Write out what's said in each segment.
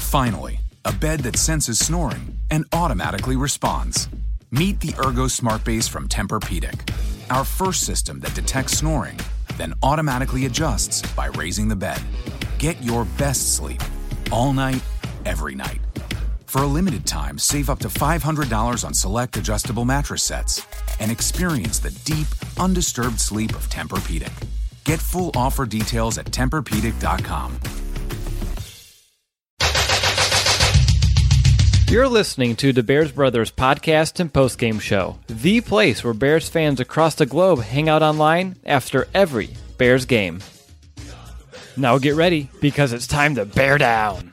Finally, a bed that senses snoring and automatically responds. Meet the Ergo Smart Base from Tempur-Pedic, our first system that detects snoring, then automatically adjusts by raising the bed. Get your best sleep all night, every night. For a limited time, save up to $500 on select adjustable mattress sets and experience the deep, undisturbed sleep of Tempur-Pedic. Get full offer details at TempurPedic.com. You're listening to the Bears Brothers podcast and postgame show, the place where Bears fans across the globe hang out online after every Bears game. Now get ready, because it's time to bear down.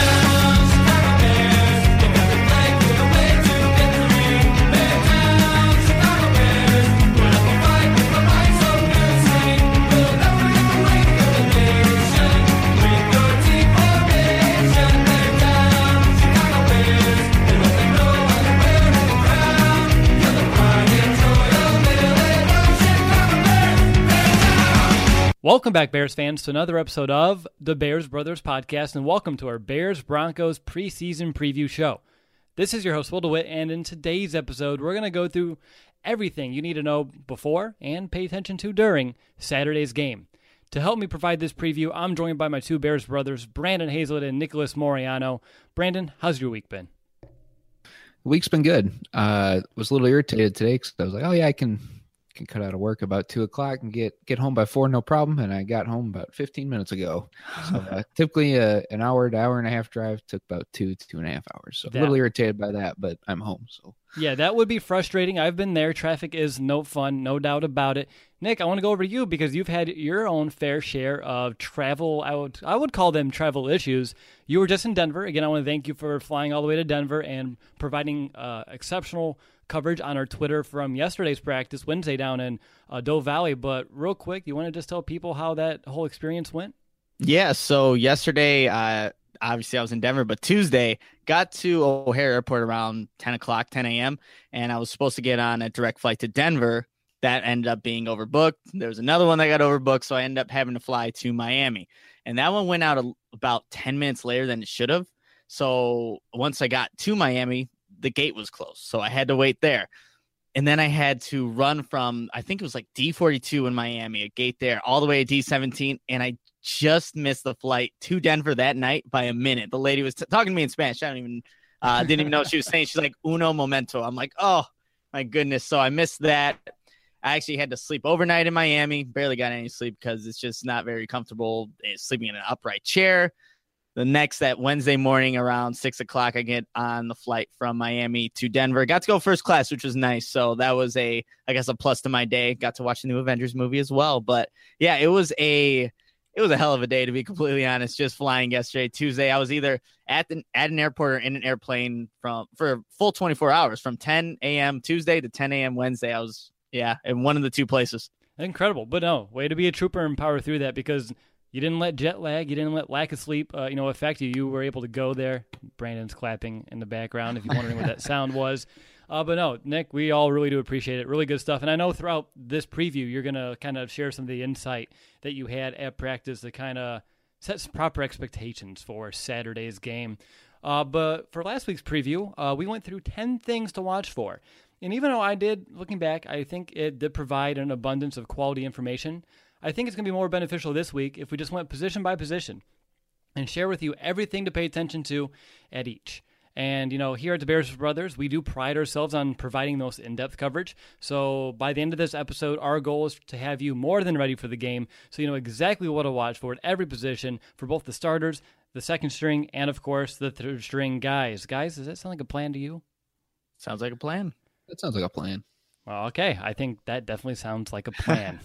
Welcome back, Bears fans, to another episode of the Bears Brothers podcast, and welcome to our Bears-Broncos preseason preview show. This is your host, Will DeWitt, and in today's episode, we're going to go through everything you need to know before and pay attention to during Saturday's game. To help me provide this preview, I'm joined by my two Bears brothers, Brandon Hazlett and Nicholas Moriano. Brandon, how's your week been? The week's been good. Was a little irritated today because I was like, oh yeah, I can cut out of work about 2:00 and get home by 4, no problem. And I got home about 15 minutes ago. So typically an hour to hour and a half drive took about 2.5 hours. So a little irritated by that, but I'm home. So yeah, that would be frustrating. I've been there. Traffic is no fun, no doubt about it. Nick, I want to go over to you because you've had your own fair share of travel. I would call them travel issues. You were just in Denver. Again, I want to thank you for flying all the way to Denver and providing exceptional coverage on our Twitter from yesterday's practice, Wednesday, down in Doe Valley. But real quick, you want to just tell people how that whole experience went? Yeah, so yesterday, obviously I was in Denver, but Tuesday, got to O'Hare Airport around 10 a.m., and I was supposed to get on a direct flight to Denver. That ended up being overbooked. There was another one that got overbooked, so I ended up having to fly to Miami. And that one went out about 10 minutes later than it should have. So once I got to Miami, the gate was closed, so I had to wait there. And then I had to run from, I think it was like D42 in Miami, a gate there, all the way to D17, and I just missed the flight to Denver that night by a minute. The lady was talking to me in Spanish. I didn't even know what she was saying. She's like, uno momento. I'm like, oh, my goodness. So I missed that. I actually had to sleep overnight in Miami. Barely got any sleep because it's just not very comfortable sleeping in an upright chair. That Wednesday morning around 6:00, I get on the flight from Miami to Denver. Got to go first class, which was nice. So that was a plus to my day. Got to watch the new Avengers movie as well. But yeah, it was a hell of a day, to be completely honest. Just flying yesterday, Tuesday. I was either at an airport or in an airplane for a full 24 hours, from 10 a.m. Tuesday to 10 a.m. Wednesday. I was in one of the two places. Incredible, but no, way to be a trooper and power through that, because you didn't let jet lag, you didn't let lack of sleep, affect you. You were able to go there. Brandon's clapping in the background, if you're wondering what that sound was. But no, Nick, we all really do appreciate it. Really good stuff. And I know throughout this preview, you're going to kind of share some of the insight that you had at practice to kind of set some proper expectations for Saturday's game. But for last week's preview, we went through 10 things to watch for. And even though looking back, I think it did provide an abundance of quality information, I think it's going to be more beneficial this week if we just went position by position and share with you everything to pay attention to at each. And, here at the Bears Brothers, we do pride ourselves on providing the most in-depth coverage. So by the end of this episode, our goal is to have you more than ready for the game, so you know exactly what to watch for at every position for both the starters, the second string, and, of course, the third string guys. Guys, does that sound like a plan to you? Sounds like a plan. That sounds like a plan. Well, okay, I think that definitely sounds like a plan.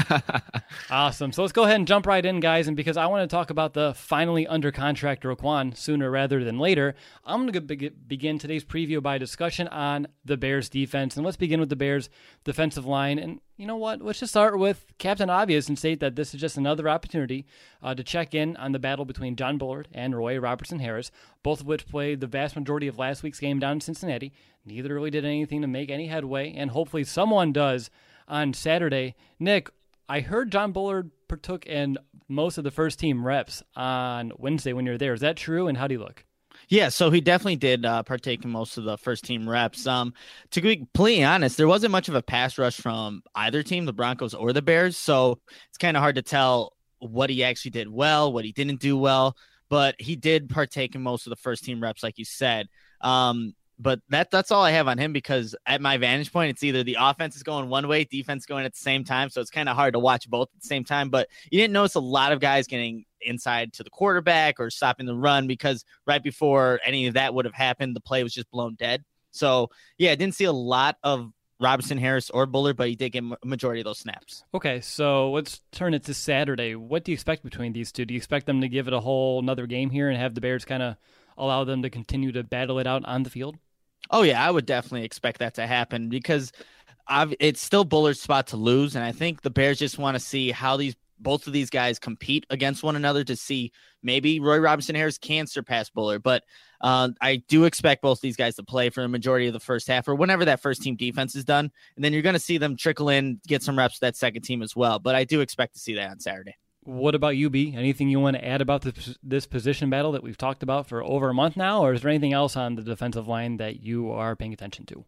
Awesome. So let's go ahead and jump right in, guys. And because I want to talk about the finally under contract Roquan sooner rather than later, I'm going to begin today's preview by a discussion on the Bears defense. And let's begin with the Bears defensive line. And you know what? Let's just start with Captain Obvious and state that this is just another opportunity to check in on the battle between John Bullard and Roy Robertson Harris, both of which played the vast majority of last week's game down in Cincinnati. Neither really did anything to make any headway, and hopefully someone does on Saturday. Nick, I heard John Bullard partook in most of the first-team reps on Wednesday when you were there. Is that true, and how do you look? Yeah, so he definitely did partake in most of the first team reps. To be completely honest, there wasn't much of a pass rush from either team, the Broncos or the Bears. So it's kind of hard to tell what he actually did well, what he didn't do well. But he did partake in most of the first team reps, like you said. But that's all I have on him, because at my vantage point, it's either the offense is going one way, defense going at the same time. So it's kind of hard to watch both at the same time. But you didn't notice a lot of guys getting inside to the quarterback or stopping the run, because right before any of that would have happened, the play was just blown dead. So, yeah, I didn't see a lot of Robinson, Harris, or Bullard, but he did get a majority of those snaps. Okay, so let's turn it to Saturday. What do you expect between these two? Do you expect them to give it a whole another game here and have the Bears kind of allow them to continue to battle it out on the field? Oh, yeah, I would definitely expect that to happen, because it's still Bullard's spot to lose, and I think the Bears just want to see how both of these guys compete against one another to see maybe Roy Robinson Harris can surpass Bullard. But I do expect both these guys to play for the majority of the first half, or whenever that first team defense is done. And then you're going to see them trickle in, get some reps with that second team as well. But I do expect to see that on Saturday. What about you, B? Anything you want to add about this position battle that we've talked about for over a month now? Or is there anything else on the defensive line that you are paying attention to?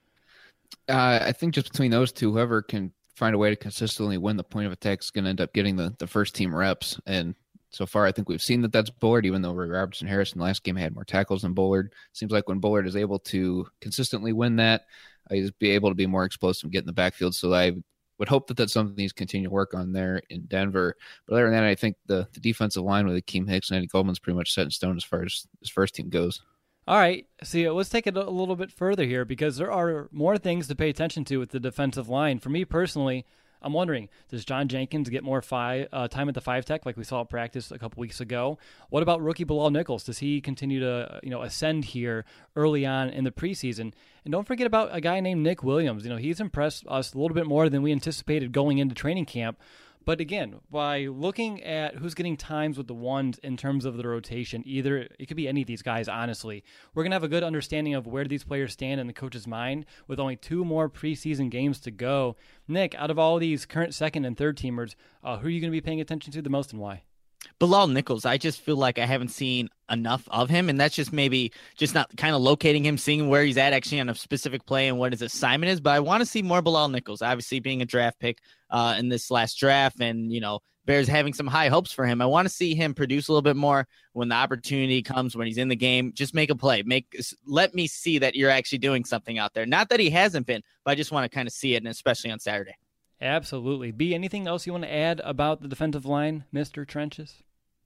I think just between those two, whoever can find a way to consistently win the point of attack is going to end up getting the first team reps. And so far, I think we've seen that that's Bullard, even though Roy Robertson Harris in the last game had more tackles than Bullard. Seems like when Bullard is able to consistently win that, he's be able to be more explosive and get in the backfield. So I would hope that that's something he's continue to work on there in Denver. But other than that, I think the defensive line with Akeem Hicks and Eddie Goldman's pretty much set in stone as far as his first team goes. All right. See, let's take it a little bit further here, because there are more things to pay attention to with the defensive line. For me personally, I'm wondering, does John Jenkins get more time at the 5-tech like we saw at practice a couple weeks ago? What about rookie Bilal Nichols? Does he continue to ascend here early on in the preseason? And don't forget about a guy named Nick Williams. He's impressed us a little bit more than we anticipated going into training camp. But again, by looking at who's getting times with the ones in terms of the rotation, either it could be any of these guys, honestly, we're going to have a good understanding of where these players stand in the coach's mind with only 2 more preseason games to go. Nick, out of all these current second and third teamers, who are you going to be paying attention to the most and why? Bilal Nichols, I just feel like I haven't seen enough of him, and that's just maybe just not kind of locating him, seeing where he's at actually on a specific play and what his assignment is. But I want to see more Bilal Nichols, obviously being a draft pick in this last draft, and Bears having some high hopes for him. I want to see him produce a little bit more when the opportunity comes, when he's in the game. Just make a play. Let me see that you're actually doing something out there. Not that he hasn't been, but I just want to kind of see it, and especially on Saturday. Absolutely. B, anything else you want to add about the defensive line, Mr. Trenches?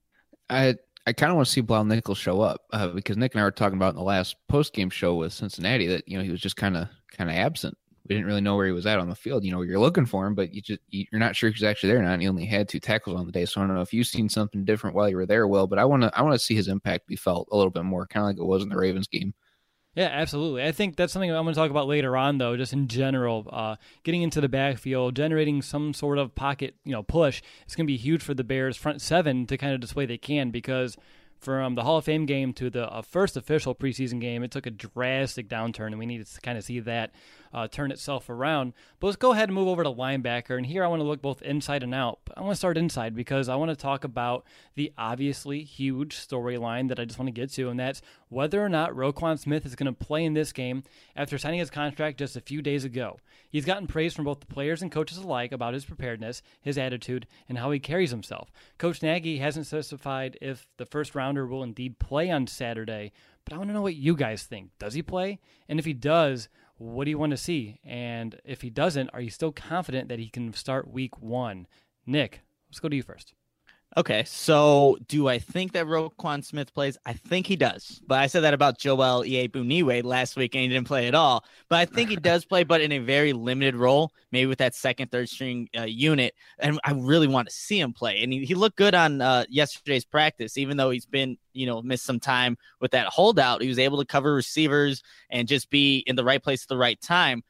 I kind of want to see Bilal Nichols show up because Nick and I were talking about in the last post-game show with Cincinnati that he was just kind of absent. We didn't really know where he was at on the field. You're looking for him, but you're not sure if he's actually there or not. And he only had 2 tackles on the day, so I don't know if you've seen something different while you were there, Will. But I want to see his impact be felt a little bit more, kind of like it was in the Ravens game. Yeah, absolutely. I think that's something I'm going to talk about later on, though, just in general. Getting into the backfield, generating some sort of pocket, push, it's going to be huge for the Bears' front 7 to kind of display they can, because from the Hall of Fame game to the first official preseason game, it took a drastic downturn, and we need to kind of see that turn itself around. But let's go ahead and move over to linebacker, and here I want to look both inside and out. But I want to start inside because I want to talk about the obviously huge storyline that I just want to get to, and that's whether or not Roquan Smith is going to play in this game after signing his contract just a few days ago. He's gotten praise from both the players and coaches alike about his preparedness, his attitude, and how he carries himself. Coach Nagy hasn't specified if the first rounder will indeed play on Saturday, but I want to know what you guys think. Does he play? And if he does, what do you want to see? And if he doesn't, are you still confident that he can start week 1? Nick, let's go to you first. Okay, so do I think that Roquan Smith plays? I think he does. But I said that about Joel Iyiegbuniwe last week, and he didn't play at all. But I think he does play, but in a very limited role, maybe with that second, third string unit. And I really want to see him play. And he looked good on yesterday's practice, even though he's been, missed some time with that holdout. He was able to cover receivers and just be in the right place at the right time.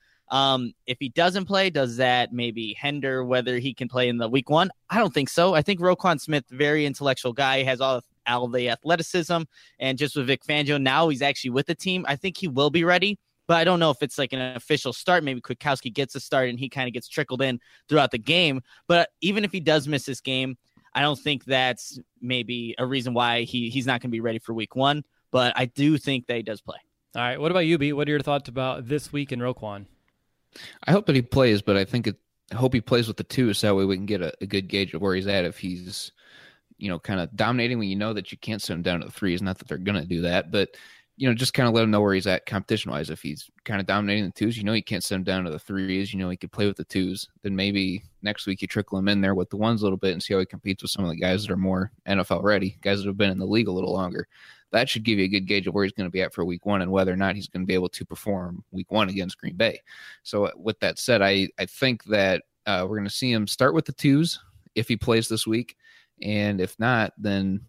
If he doesn't play, does that maybe hinder whether he can play in the week 1? I don't think so. I think Roquan Smith, very intellectual guy, he has all the athleticism, and just with Vic Fangio, now he's actually with the team. I think he will be ready, but I don't know if it's like an official start. Maybe Kwiatkowski gets a start and he kind of gets trickled in throughout the game. But even if he does miss this game, I don't think that's maybe a reason why he's not going to be ready for week 1. but I do think that he does play. All right. What about you, B? What are your thoughts about this week in Roquan? I hope that he plays, but I hope he plays with the two, so that way we can get a good gauge of where he's at. If he's, kind of dominating when you know that you can't send him down to the threes. Not that they're going to do that, but, just kind of let him know where he's at competition-wise. If he's kind of dominating the twos, you can't send him down to the threes. He could play with the twos. Then maybe next week you trickle him in there with the ones a little bit and see how he competes with some of the guys that are more NFL ready, guys that have been in the league a little longer. That should give you a good gauge of where he's going to be at for week one and whether or not he's going to be able to perform week one against Green Bay. So with that said, I think that we're going to see him start with the twos if he plays this week. And if not, then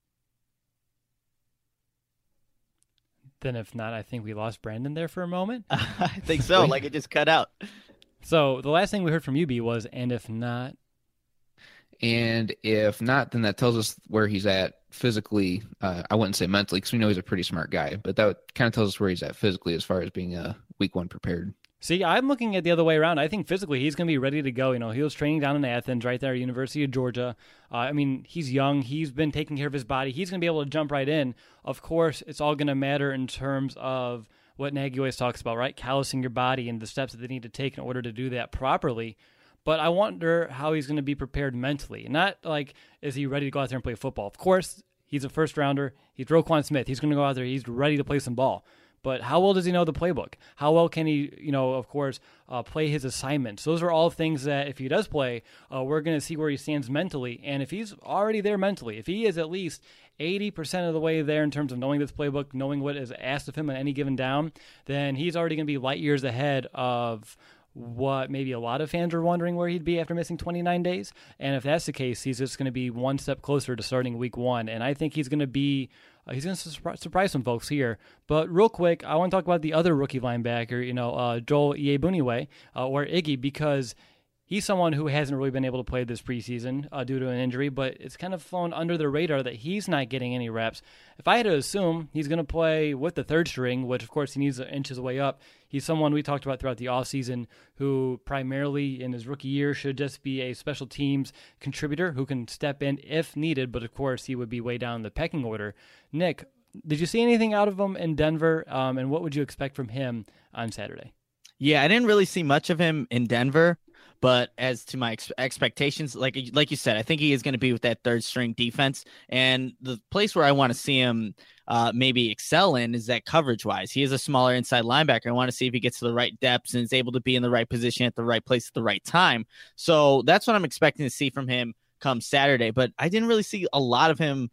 if not, I think we lost Brandon there for a moment. I think so. Like it just cut out. So the last thing we heard from you, B, was, and if not. And if not, then that tells us where he's at physically. I wouldn't say mentally because we know he's a pretty smart guy, but that kind of tells us where he's at physically as far as being week one prepared. See, I'm looking at the other way around. I think physically he's going to be ready to go. He was training down in Athens, right there at University of Georgia. He's young. He's been taking care of his body. He's going to be able to jump right in. Of course, it's all going to matter in terms of what Nagy always talks about, right? Callousing your body and the steps that they need to take in order to do that properly. But I wonder how he's going to be prepared mentally. Not like, is he ready to go out there and play football? Of course, he's a first-rounder. He's Roquan Smith. He's going to go out there. He's ready to play some ball. But how well does he know the playbook? How well can he, of course, play his assignments? Those are all things that if he does play, we're going to see where he stands mentally. And if he's already there mentally, if he is at least 80% of the way there in terms of knowing this playbook, knowing what is asked of him on any given down, then he's already going to be light years ahead of what maybe a lot of fans are wondering where he'd be after missing 29 days. And if that's the case, he's just going to be one step closer to starting week one. And I think he's going to surprise some folks here. But real quick, I want to talk about the other rookie linebacker, Joel Iyiegbuniwe, or Iggy, because he's someone who hasn't really been able to play this preseason due to an injury, but it's kind of flown under the radar that he's not getting any reps. If I had to assume he's going to play with the third string, which of course he needs to inch his way up, he's someone we talked about throughout the offseason who primarily in his rookie year should just be a special teams contributor who can step in if needed, but of course he would be way down the pecking order. Nick, did you see anything out of him in Denver, and what would you expect from him on Saturday? Yeah, I didn't really see much of him in Denver. But as to my expectations, like you said, I think he is going to be with that third string defense. And the place where I want to see him maybe excel in is that coverage wise. He is a smaller inside linebacker. I want to see if he gets to the right depths and is able to be in the right position at the right place at the right time. So that's what I'm expecting to see from him come Saturday. But I didn't really see a lot of him,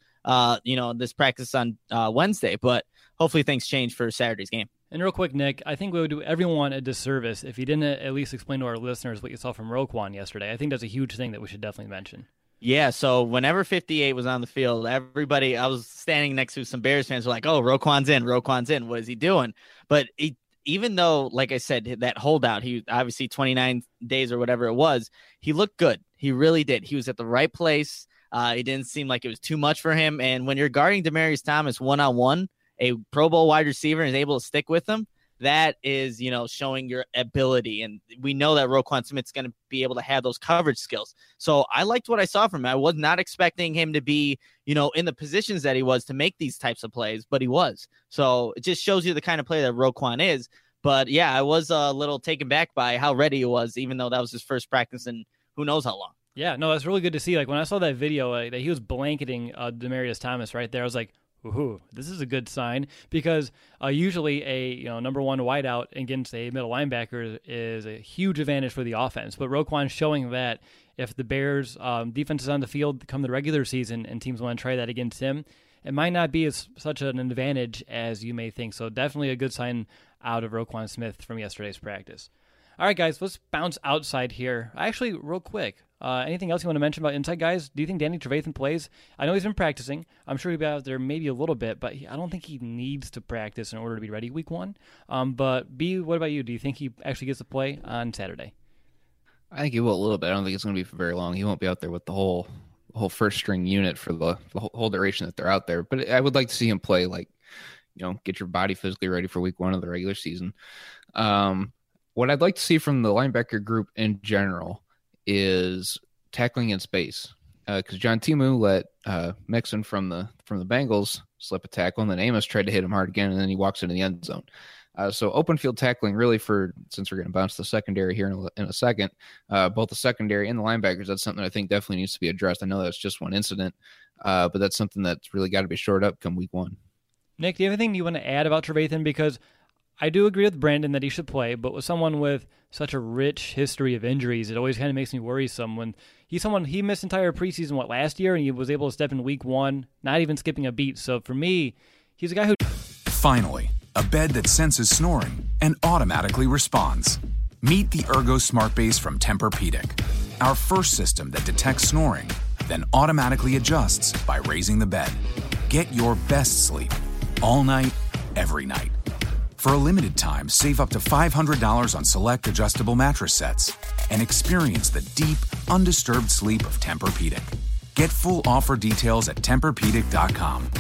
this practice on Wednesday. But hopefully things change for Saturday's game. And real quick, Nick, I think we would do everyone a disservice if you didn't at least explain to our listeners what you saw from Roquan yesterday. I think that's a huge thing that we should definitely mention. Yeah, so whenever 58 was on the field, everybody, I was standing next to some Bears fans were like, oh, Roquan's in. What is he doing? But even though, like I said, that holdout, he obviously 29 days or whatever it was, he looked good. He really did. He was at the right place. It didn't seem like it was too much for him. And when you're guarding Demaryius Thomas one-on-one, a Pro Bowl wide receiver is able to stick with them, that is, showing your ability. And we know that Roquan Smith's going to be able to have those coverage skills. So I liked what I saw from him. I was not expecting him to be, in the positions that he was to make these types of plays, but he was. So it just shows you the kind of player that Roquan is. But yeah, I was a little taken back by how ready he was, even though that was his first practice in who knows how long. Yeah, no, that's really good to see. Like when I saw that video that he was blanketing Demaryius Thomas right there, I was like, ooh, this is a good sign because usually a number one wideout against a middle linebacker is a huge advantage for the offense. But Roquan's showing that if the Bears' defense is on the field come the regular season and teams want to try that against him, it might not be such an advantage as you may think. So definitely a good sign out of Roquan Smith from yesterday's practice. All right, guys, let's bounce outside here. Actually, real quick, anything else you want to mention about inside, guys? Do you think Danny Trevathan plays? I know he's been practicing. I'm sure he'll be out there maybe a little bit, but I don't think he needs to practice in order to be ready week one. But B, what about you? Do you think he actually gets to play on Saturday? I think he will a little bit. I don't think it's going to be for very long. He won't be out there with the whole first string unit for the whole duration that they're out there. But I would like to see him play, get your body physically ready for week one of the regular season. What I'd like to see from the linebacker group in general is tackling in space, because John Timu let Mixon from the Bengals slip a tackle, and then Amos tried to hit him hard again, and then he walks into the end zone. So open field tackling really since we're going to bounce the secondary here in a second, both the secondary and the linebackers, that's something I think definitely needs to be addressed. I know that's just one incident, but that's something that's really got to be shored up come week 1. Nick, do you have anything you want to add about Trevathan? Because I do agree with Brandon that he should play, but with someone with such a rich history of injuries, it always kind of makes me worrisome when he missed entire preseason, last year, and he was able to step in week 1, not even skipping a beat. So for me, he's a guy who... Finally, a bed that senses snoring and automatically responds. Meet the Ergo Smart Base from Tempur-Pedic, our first system that detects snoring, then automatically adjusts by raising the bed. Get your best sleep all night, every night. For a limited time, save up to $500 on select adjustable mattress sets and experience the deep, undisturbed sleep of Tempur-Pedic. Get full offer details at TempurPedic.com.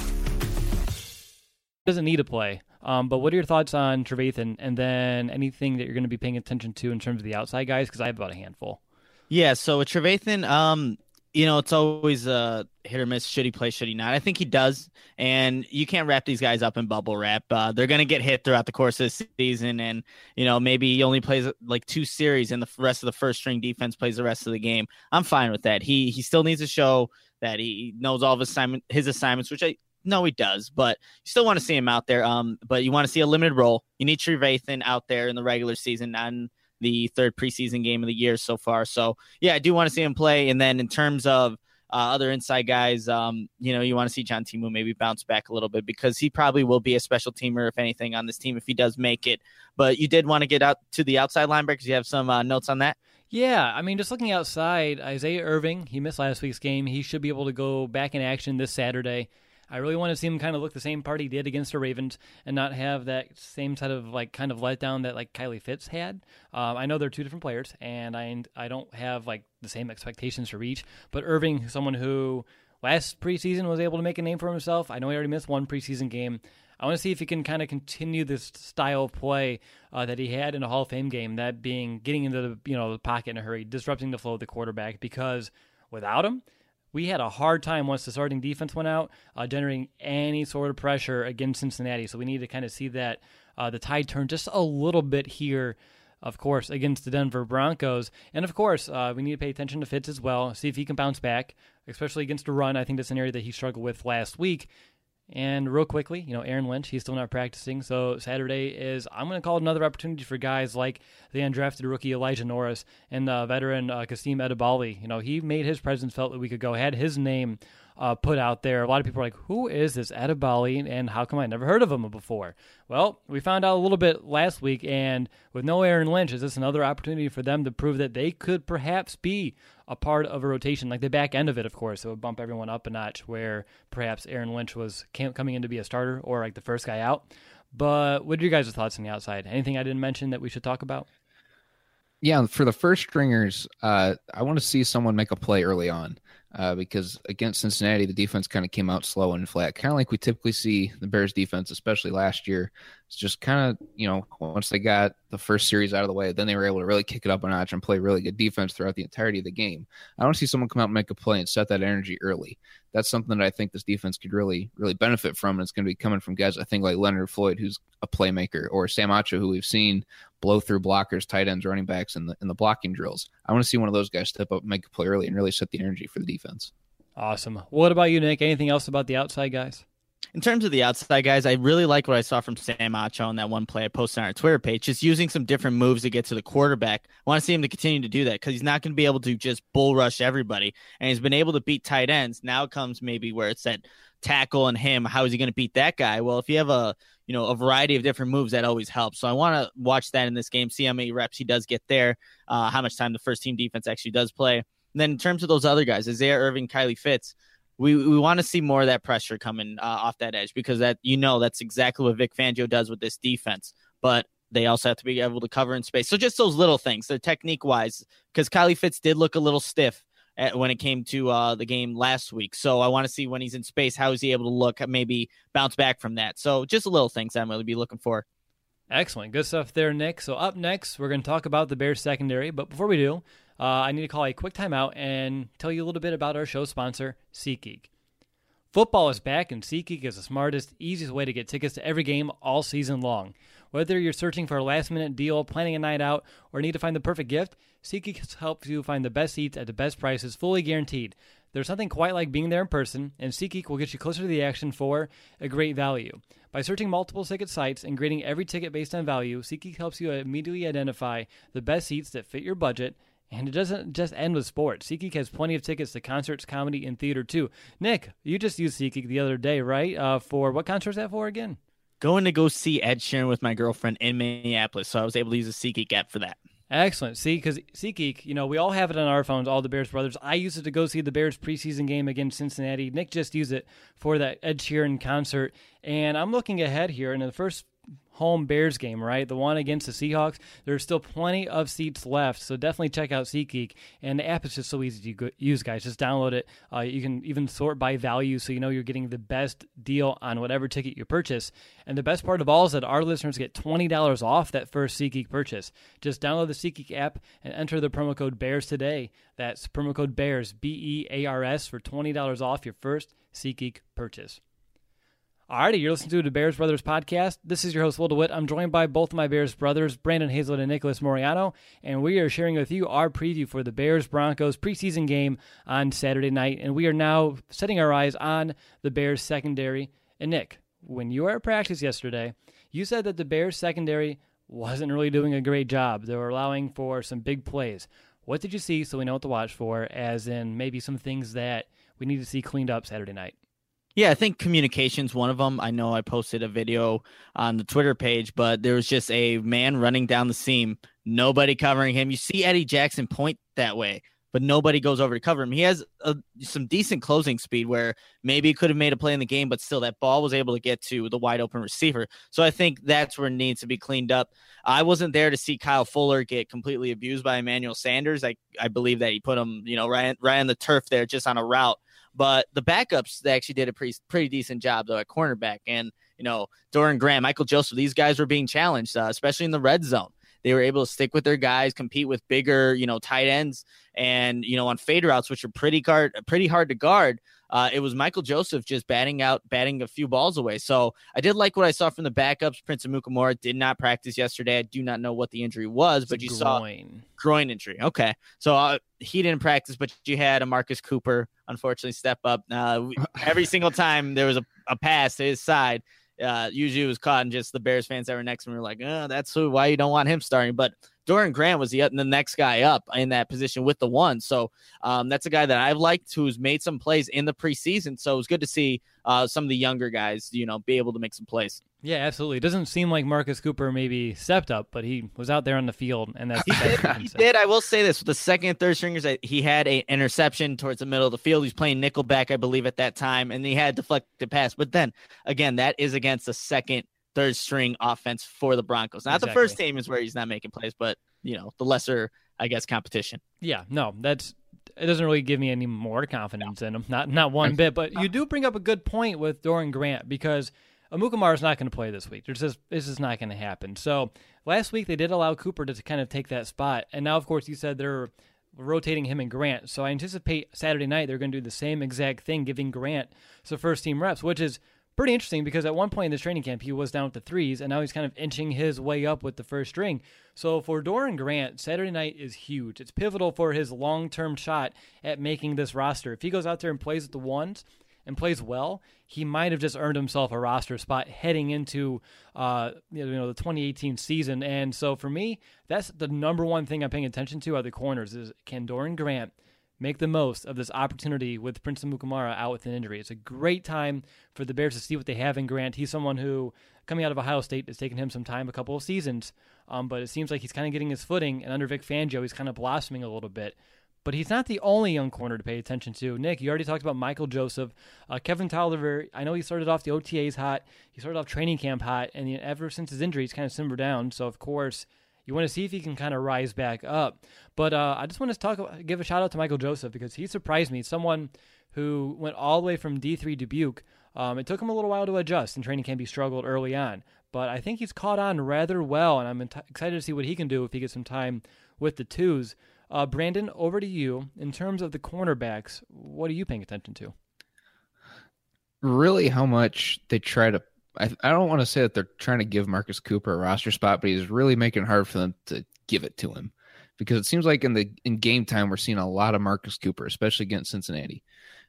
Doesn't need to play. But what are your thoughts on Trevathan, and then anything that you're going to be paying attention to in terms of the outside guys? Because I have about a handful. Yeah, so with Trevathan, it's always a hit or miss. Should he play? Should he not? I think he does. And you can't wrap these guys up in bubble wrap. They're going to get hit throughout the course of the season. And, maybe he only plays like 2 series and the rest of the first string defense plays the rest of the game. I'm fine with that. He still needs to show that he knows all of his assignments, which I know he does, but you still want to see him out there. But you want to see a limited role. You need Trevathan out there in the regular season, not in the 3rd preseason game of the year so far. So yeah, I do want to see him play. And then in terms of other inside guys, you want to see John Timu maybe bounce back a little bit, because he probably will be a special teamer, if anything, on this team if he does make it. But you did want to get out to the outside linebackers. You have some notes on that? Yeah, I mean, just looking outside, Isaiah Irving, he missed last week's game. He should be able to go back in action this Saturday. I really want to see him kind of look the same part he did against the Ravens and not have that same type of kind of letdown that Kylie Fitz had. I know they're 2 different players, and I don't have the same expectations for each. But Irving, someone who last preseason was able to make a name for himself. I know he already missed 1 preseason game. I want to see if he can kind of continue this style of play that he had in a Hall of Fame game, that being getting into the pocket in a hurry, disrupting the flow of the quarterback, because without him, we had a hard time once the starting defense went out, generating any sort of pressure against Cincinnati. So we need to kind of see that the tide turn just a little bit here, of course, against the Denver Broncos. And, of course, we need to pay attention to Fitz as well, see if he can bounce back, especially against a run. I think that's an area that he struggled with last week. And real quickly, Aaron Lynch, he's still not practicing. So Saturday is, I'm going to call it another opportunity for guys like the undrafted rookie Elijah Norris and the veteran Kasim Edebali. He made his presence felt a week ago, had his name put out there. A lot of people are like, who is this Edebali, and how come I never heard of him before? Well, we found out a little bit last week, and with no Aaron Lynch, is this another opportunity for them to prove that they could perhaps be a part of a rotation, like the back end of it, of course. It would bump everyone up a notch, where perhaps Aaron Lynch was coming in to be a starter or the first guy out. But what are your guys' thoughts on the outside? Anything I didn't mention that we should talk about? Yeah, for the first stringers, I want to see someone make a play early on. Because against Cincinnati, the defense kind of came out slow and flat, kind of like we typically see the Bears defense, especially last year. It's just kind of, once they got the first series out of the way, then they were able to really kick it up a notch and play really good defense throughout the entirety of the game. I want to see someone come out and make a play and set that energy early. That's something that I think this defense could really, really benefit from. And it's going to be coming from guys, I think, like Leonard Floyd, who's a playmaker, or Sam Acho, who we've seen blow through blockers, tight ends, running backs in the blocking drills. I want to see one of those guys step up and make a play early and really set the energy for the defense. Awesome. What about you, Nick? Anything else about the outside guys? In terms of the outside guys, I really like what I saw from Sam Acho on that one play I posted on our Twitter page, just using some different moves to get to the quarterback. I want to see him to continue to do that, because he's not going to be able to just bull rush everybody. And he's been able to beat tight ends. Now comes maybe where it's that tackle and him. How is he going to beat that guy? Well, if you have a variety of different moves, that always helps. So I want to watch that in this game, see how many reps he does get there, how much time the first team defense actually does play. And then in terms of those other guys, Isaiah Irving, Kylie Fitz, we want to see more of that pressure coming off that edge, because that's exactly what Vic Fangio does with this defense. But they also have to be able to cover in space. So just those little things, they're technique-wise, because Kylie Fitz did look a little stiff when it came to the game last week. So I want to see when he's in space, how is he able to look, maybe bounce back from that. So just little things I'm going to be looking for. Excellent. Good stuff there, Nick. So up next, we're going to talk about the Bears secondary. But before we do, I need to call a quick timeout and tell you a little bit about our show sponsor, SeatGeek. Football is back, and SeatGeek is the smartest, easiest way to get tickets to every game all season long. Whether you're searching for a last-minute deal, planning a night out, or need to find the perfect gift, SeatGeek helps you find the best seats at the best prices, fully guaranteed. There's nothing quite like being there in person, and SeatGeek will get you closer to the action for a great value. By searching multiple ticket sites and grading every ticket based on value, SeatGeek helps you immediately identify the best seats that fit your budget. And it doesn't just end with sports. SeatGeek has plenty of tickets to concerts, comedy, and theater, too. Nick, you just used SeatGeek the other day, right? For what concert was that for again? Going to go see Ed Sheeran with my girlfriend in Minneapolis, so I was able to use a SeatGeek app for that. Excellent. See, because SeatGeek, we all have it on our phones, all the Bears brothers. I used it to go see the Bears preseason game against Cincinnati. Nick just used it for that Ed Sheeran concert. And I'm looking ahead here, and in the first home Bears game, right? The one against the Seahawks. There's still plenty of seats left, so definitely check out SeatGeek. And the app is just so easy to use, guys. Just download it. You can even sort by value, so you know you're getting the best deal on whatever ticket you purchase. And the best part of all is that our listeners get $20 off that first SeatGeek purchase. Just download the SeatGeek app and enter the promo code BEARS today. That's promo code BEARS, BEARS, for $20 off your first SeatGeek purchase. Alrighty, you're listening to the Bears Brothers podcast. This is your host, Will DeWitt. I'm joined by both of my Bears brothers, Brandon Hazlett and Nicholas Moriano, and we are sharing with you our preview for the Bears-Broncos preseason game on Saturday night. And we are now setting our eyes on the Bears secondary. And Nick, when you were at practice yesterday, you said that the Bears secondary wasn't really doing a great job. They were allowing for some big plays. What did you see so we know what to watch for, as in maybe some things that we need to see cleaned up Saturday night? Yeah, I think communication's one of them. I know I posted a video on the Twitter page, but there was just a man running down the seam, nobody covering him. You see Eddie Jackson point that way, but nobody goes over to cover him. He has some decent closing speed where maybe he could have made a play in the game, but still that ball was able to get to the wide open receiver. So I think that's where it needs to be cleaned up. I wasn't there to see Kyle Fuller get completely abused by Emmanuel Sanders. I believe that he put him, right on the turf there, just on a route. But the backups, they actually did a pretty decent job, though, at cornerback. And, Doran Grant, Michael Joseph, these guys were being challenged, especially in the red zone. They were able to stick with their guys, compete with bigger, tight ends. And, on fade routes, which are pretty hard to guard, it was Michael Joseph just batting a few balls away. So I did like what I saw from the backups. Prince Amukamara did not practice yesterday. I do not know what the injury was, but you saw groin injury. Okay. So he didn't practice, but you had a Marcus Cooper, unfortunately, step up. Every single time there was a pass to his side, usually it was caught, and just the Bears fans that were next to me were like, that's why you don't want him starting. But Doran Grant was the next guy up in that position with the one. So that's a guy that I've liked, who's made some plays in the preseason. So it was good to see some of the younger guys, be able to make some plays. Yeah, absolutely. It doesn't seem like Marcus Cooper maybe stepped up, but he was out there on the field, and that's he did. I will say this: with the second and third stringers, he had an interception towards the middle of the field. He's playing nickelback, I believe, at that time, and he had deflected pass. But then again, that is against the second, third string offense for the Broncos. Not the first team is where he's not making plays, but the lesser, I guess, competition. Yeah, no, it doesn't really give me any more confidence in him. Not one bit. But you do bring up a good point with Doran Grant, because Amukamara is not going to play this week. This is not going to happen. So last week they did allow Cooper to kind of take that spot. And now, of course, you said they're rotating him and Grant. So I anticipate Saturday night they're going to do the same exact thing, giving Grant some first-team reps, which is pretty interesting because at one point in this training camp he was down with the threes, and now he's kind of inching his way up with the first string. So for Doran Grant, Saturday night is huge. It's pivotal for his long-term shot at making this roster. If he goes out there and plays with the ones and plays well, he might have just earned himself a roster spot heading into the 2018 season. And so for me, that's the number one thing I'm paying attention to are the corners. Is can Doran Grant make the most of this opportunity with Prince Amukamara out with an injury? It's a great time for the Bears to see what they have in Grant. He's someone who, coming out of Ohio State, it's taken him some time, a couple of seasons, but it seems like he's kind of getting his footing, and under Vic Fangio, he's kind of blossoming a little bit. But he's not the only young corner to pay attention to. Nick, you already talked about Michael Joseph. Kevin Tolliver, I know he started off the OTAs hot. He started off training camp hot, and ever since his injury, he's kind of simmered down. So, of course, you want to see if he can kind of rise back up. But I just want to give a shout-out to Michael Joseph because he surprised me. Someone who went all the way from D3 Dubuque. It took him a little while to adjust. In training camp, he struggled early on. But I think he's caught on rather well, and I'm excited to see what he can do if he gets some time with the twos. Brandon, over to you. In terms of the cornerbacks, what are you paying attention to? really how much they try to. I don't want to say that they're trying to give Marcus Cooper a roster spot, but he's really making it hard for them to give it to him, because it seems like in game time we're seeing a lot of Marcus Cooper, especially against Cincinnati.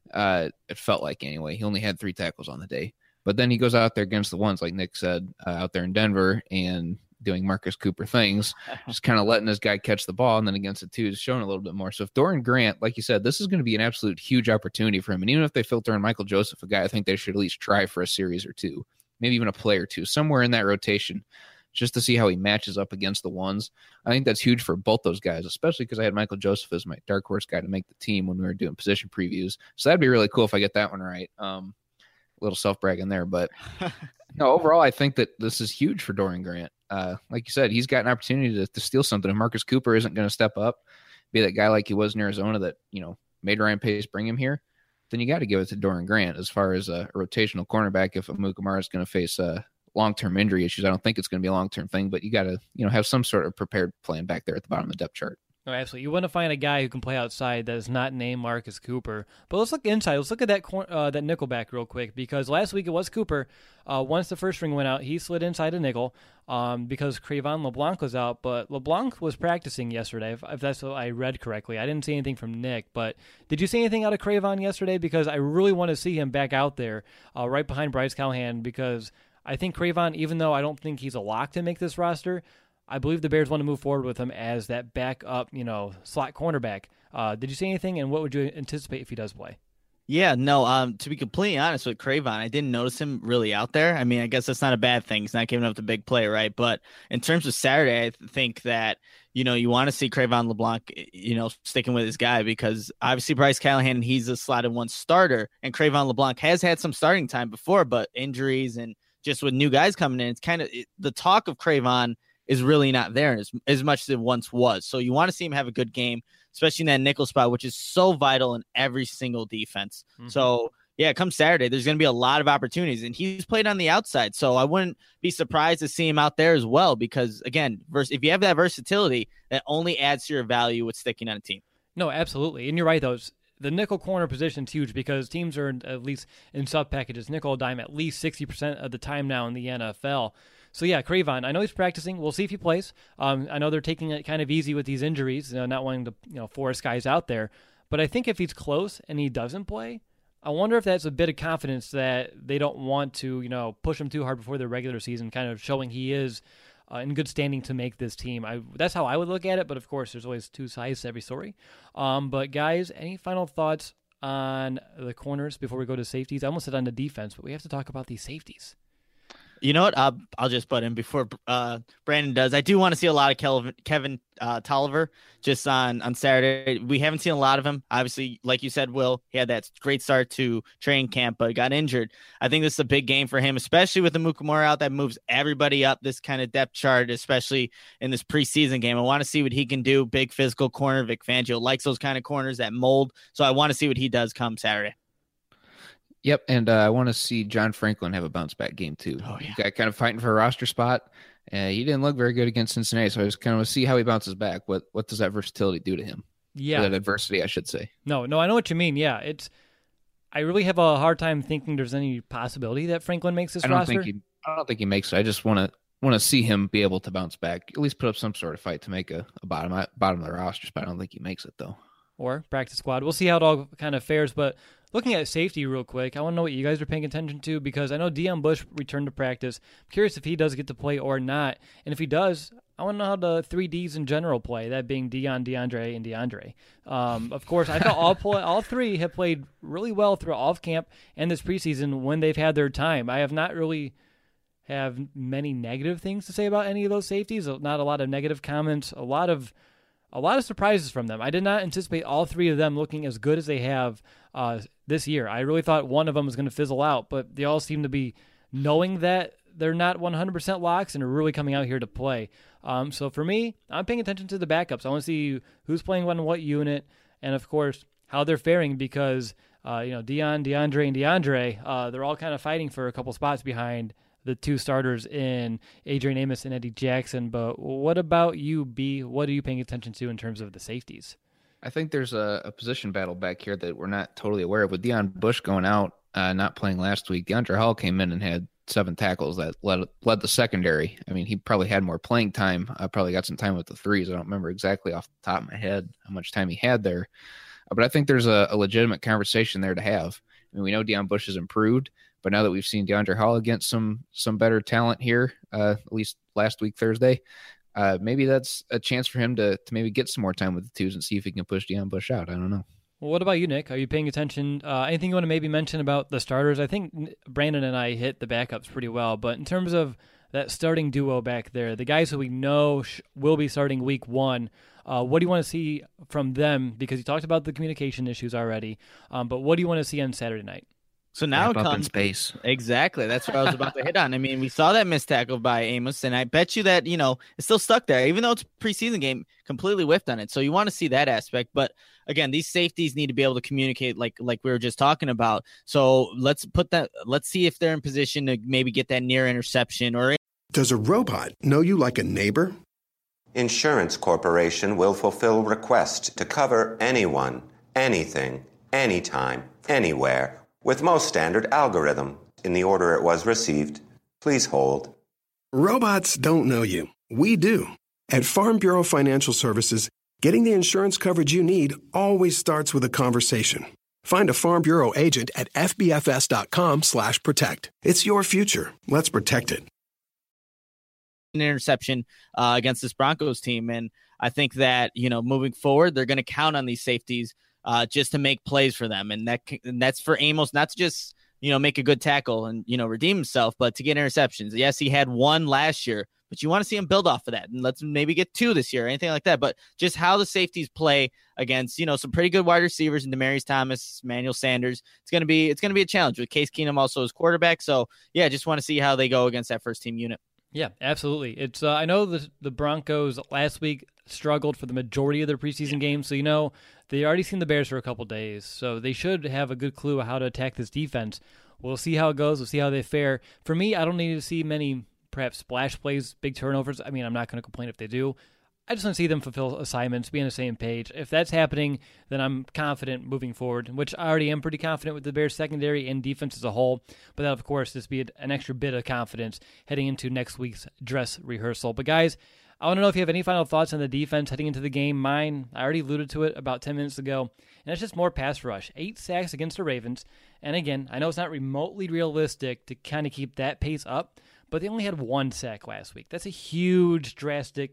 It felt like anyway. He only had 3 tackles on the day, but then he goes out there against the ones like Nick said out there in Denver and doing Marcus Cooper things, just kind of letting this guy catch the ball, and then against the twos showing a little bit more. So if Dorian Grant, like you said, this is going to be an absolute huge opportunity for him, and even if they filter in Michael Joseph, a guy I think they should at least try for a series or two, maybe even a play or two, somewhere in that rotation, just to see how he matches up against the ones. I think that's huge for both those guys, especially because I had Michael Joseph as my dark horse guy to make the team when we were doing position previews. So that'd be really cool if I get that one right. A little self-bragging there, but no, overall, I think that this is huge for Dorian Grant. Like you said, he's got an opportunity to steal something. If Marcus Cooper isn't going to step up, be that guy like he was in Arizona that, made Ryan Pace bring him here, then you got to give it to Dorian Grant as far as a rotational cornerback. If Amukamara is going to face long-term injury issues, I don't think it's going to be a long-term thing, but you got to, have some sort of prepared plan back there at the bottom of the depth chart. Oh, absolutely. You want to find a guy who can play outside that is not named Marcus Cooper. But let's look inside. Let's look at that nickelback real quick, because last week it was Cooper. Once the first string went out, he slid inside a nickel because Cravon LeBlanc was out. But LeBlanc was practicing yesterday, if that's what I read correctly. I didn't see anything from Nick. But did you see anything out of Cravon yesterday? Because I really want to see him back out there right behind Bryce Callahan, because I think Cravon, even though I don't think he's a lock to make this roster, I believe the Bears want to move forward with him as that backup, slot cornerback. Did you see anything, and what would you anticipate if he does play? Yeah, no, to be completely honest with Cravon, I didn't notice him really out there. I mean, I guess that's not a bad thing. He's not giving up the big play, right? But in terms of Saturday, I think that, you want to see Cravon LeBlanc, sticking with his guy, because obviously Bryce Callahan, he's a slotted one starter, and Cravon LeBlanc has had some starting time before, but injuries and just with new guys coming in, it's kind of the talk of Cravon is really not there as much as it once was. So you want to see him have a good game, especially in that nickel spot, which is so vital in every single defense. Mm-hmm. So, yeah, come Saturday, there's going to be a lot of opportunities, and he's played on the outside. So I wouldn't be surprised to see him out there as well, because, again, if you have that versatility, that only adds to your value with sticking on a team. No, absolutely. And you're right, though. The nickel corner position is huge because teams are, at least in sub packages, nickel dime at least 60% of the time now in the NFL. So, yeah, Cravon, I know he's practicing. We'll see if he plays. I know they're taking it kind of easy with these injuries, not wanting to force guys out there. But I think if he's close and he doesn't play, I wonder if that's a bit of confidence that they don't want to, push him too hard before the regular season, kind of showing he is in good standing to make this team. That's how I would look at it, but of course there's always two sides to every story. But guys, any final thoughts on the corners before we go to safeties? I almost said on the defense, but we have to talk about these safeties. You know what? I'll just butt in before Brandon does. I do want to see a lot of Kevin Tolliver just on Saturday. We haven't seen a lot of him. Obviously, like you said, Will, he had that great start to training camp, but got injured. I think this is a big game for him, especially with the Amukamara out. That moves everybody up this kind of depth chart, especially in this preseason game. I want to see what he can do. Big physical corner. Vic Fangio likes those kind of corners that mold. So I want to see what he does come Saturday. Yep, and I want to see John Franklin have a bounce-back game, too. Oh, yeah. Got kind of fighting for a roster spot. He didn't look very good against Cincinnati, so I just kind of want to see how he bounces back. What does that versatility do to him? Yeah. Or that adversity, I should say. No, I know what you mean. Yeah, I really have a hard time thinking there's any possibility that Franklin makes this roster. I don't think he makes it. I just want to see him be able to bounce back, at least put up some sort of fight to make a bottom of the roster spot. I don't think he makes it, though. Or practice squad. We'll see how it all kind of fares, but looking at safety real quick, I want to know what you guys are paying attention to, because I know Deon Bush returned to practice. I'm curious if he does get to play or not. And if he does, I want to know how the 3Ds in general play, that being Deon, DeAndre, and DeAndre. Of course, I thought all three have played really well through off camp and this preseason when they've had their time. I have not really have many negative things to say about any of those safeties. Not a lot of negative comments, a lot of surprises from them. I did not anticipate all three of them looking as good as they have this year. I really thought one of them was going to fizzle out, but they all seem to be knowing that they're not 100% locks and are really coming out here to play. So for me, I'm paying attention to the backups. I want to see who's playing on what unit, and of course how they're faring, because Deon, DeAndre, and DeAndre, they're all kind of fighting for a couple spots behind the two starters in Adrian Amos and Eddie Jackson. But what about you, B? What are you paying attention to in terms of the safeties? I think there's a position battle back here that we're not totally aware of. With Deon Bush going out, not playing last week, DeAndre Hall came in and had 7 tackles that led the secondary. I mean, he probably had more playing time. I probably got some time with the threes. I don't remember exactly off the top of my head how much time he had there. But I think there's a legitimate conversation there to have. I mean, we know Deion Bush has improved, but now that we've seen DeAndre Hall against some better talent here, at least last week, Thursday, maybe that's a chance for him to maybe get some more time with the twos and see if he can push Deion Bush out. I don't know. Well, what about you, Nick? Are you paying attention? Anything you want to maybe mention about the starters? I think Brandon and I hit the backups pretty well, but in terms of that starting duo back there, the guys who we know will be starting week 1, what do you want to see from them? Because you talked about the communication issues already, but what do you want to see on Saturday night? So now Wrap up in space. Exactly. That's what I was about to hit on. I mean, we saw that missed tackle by Amos, and I bet you that, it's still stuck there, even though it's a preseason game, completely whiffed on it. So you want to see that aspect. But again, these safeties need to be able to communicate like we were just talking about. So let's see if they're in position to maybe get that near interception. Or does a robot know you like a neighbor? Insurance Corporation will fulfill requests to cover anyone, anything, anytime, anywhere, with most standard algorithm in the order it was received. Please hold. Robots don't know you. We do. At Farm Bureau Financial Services, getting the insurance coverage you need always starts with a conversation. Find a Farm Bureau agent at fbfs.com/protect. It's your future. Let's protect it. An interception against this Broncos team. And I think that, moving forward, they're going to count on these safeties just to make plays for them. And that's for Amos, not to just, make a good tackle and, redeem himself, but to get interceptions. Yes, he had 1 last year, but you want to see him build off of that. And let's maybe get 2 this year, or anything like that. But just how the safeties play against, some pretty good wide receivers in Demaryius Thomas, Emmanuel Sanders. It's going to be a challenge with Case Keenum also as quarterback. So yeah, just want to see how they go against that first team unit. Yeah, absolutely. It's I know the Broncos last week struggled for the majority of their preseason games, so they already seen the Bears for a couple days, so they should have a good clue of how to attack this defense. We'll see how it goes. We'll see how they fare. For me, I don't need to see many perhaps splash plays, big turnovers. I mean, I'm not going to complain if they do. I just want to see them fulfill assignments, be on the same page. If that's happening, then I'm confident moving forward, which I already am pretty confident with the Bears secondary and defense as a whole. But that, of course, just be an extra bit of confidence heading into next week's dress rehearsal. But guys, I want to know if you have any final thoughts on the defense heading into the game. Mine, I already alluded to it about 10 minutes ago, and it's just more pass rush. 8 sacks against the Ravens. And again, I know it's not remotely realistic to kind of keep that pace up, but they only had 1 sack last week. That's a huge, drastic,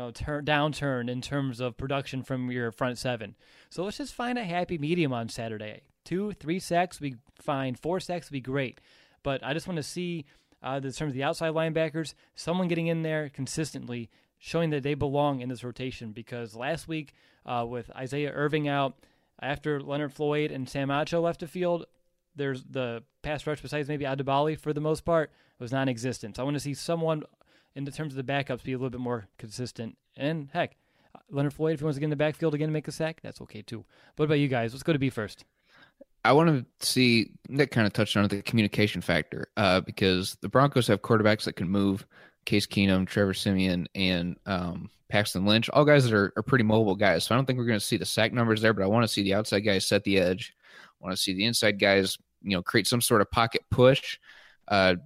downturn in terms of production from your front 7. So let's just find a happy medium on Saturday. 2, 3 sacks would be fine. 4 sacks would be great. But I just want to see, in terms of the outside linebackers, someone getting in there consistently, showing that they belong in this rotation. Because last week, with Isaiah Irving out, after Leonard Floyd and Sam Acho left the field, there's the pass rush besides maybe Adebali for the most part was non-existent. So I want to see someone in the terms of the backups be a little bit more consistent. And heck, Leonard Floyd, if he wants to get in the backfield again and make a sack, that's okay too. What about you guys? Let's go to B first. I want to see, Nick kind of touched on it, the communication factor, because the Broncos have quarterbacks that can move. Case Keenum, Trevor Siemian, and Paxton Lynch, all guys that are pretty mobile guys. So I don't think we're going to see the sack numbers there, but I want to see the outside guys set the edge. I want to see the inside guys, create some sort of pocket push, but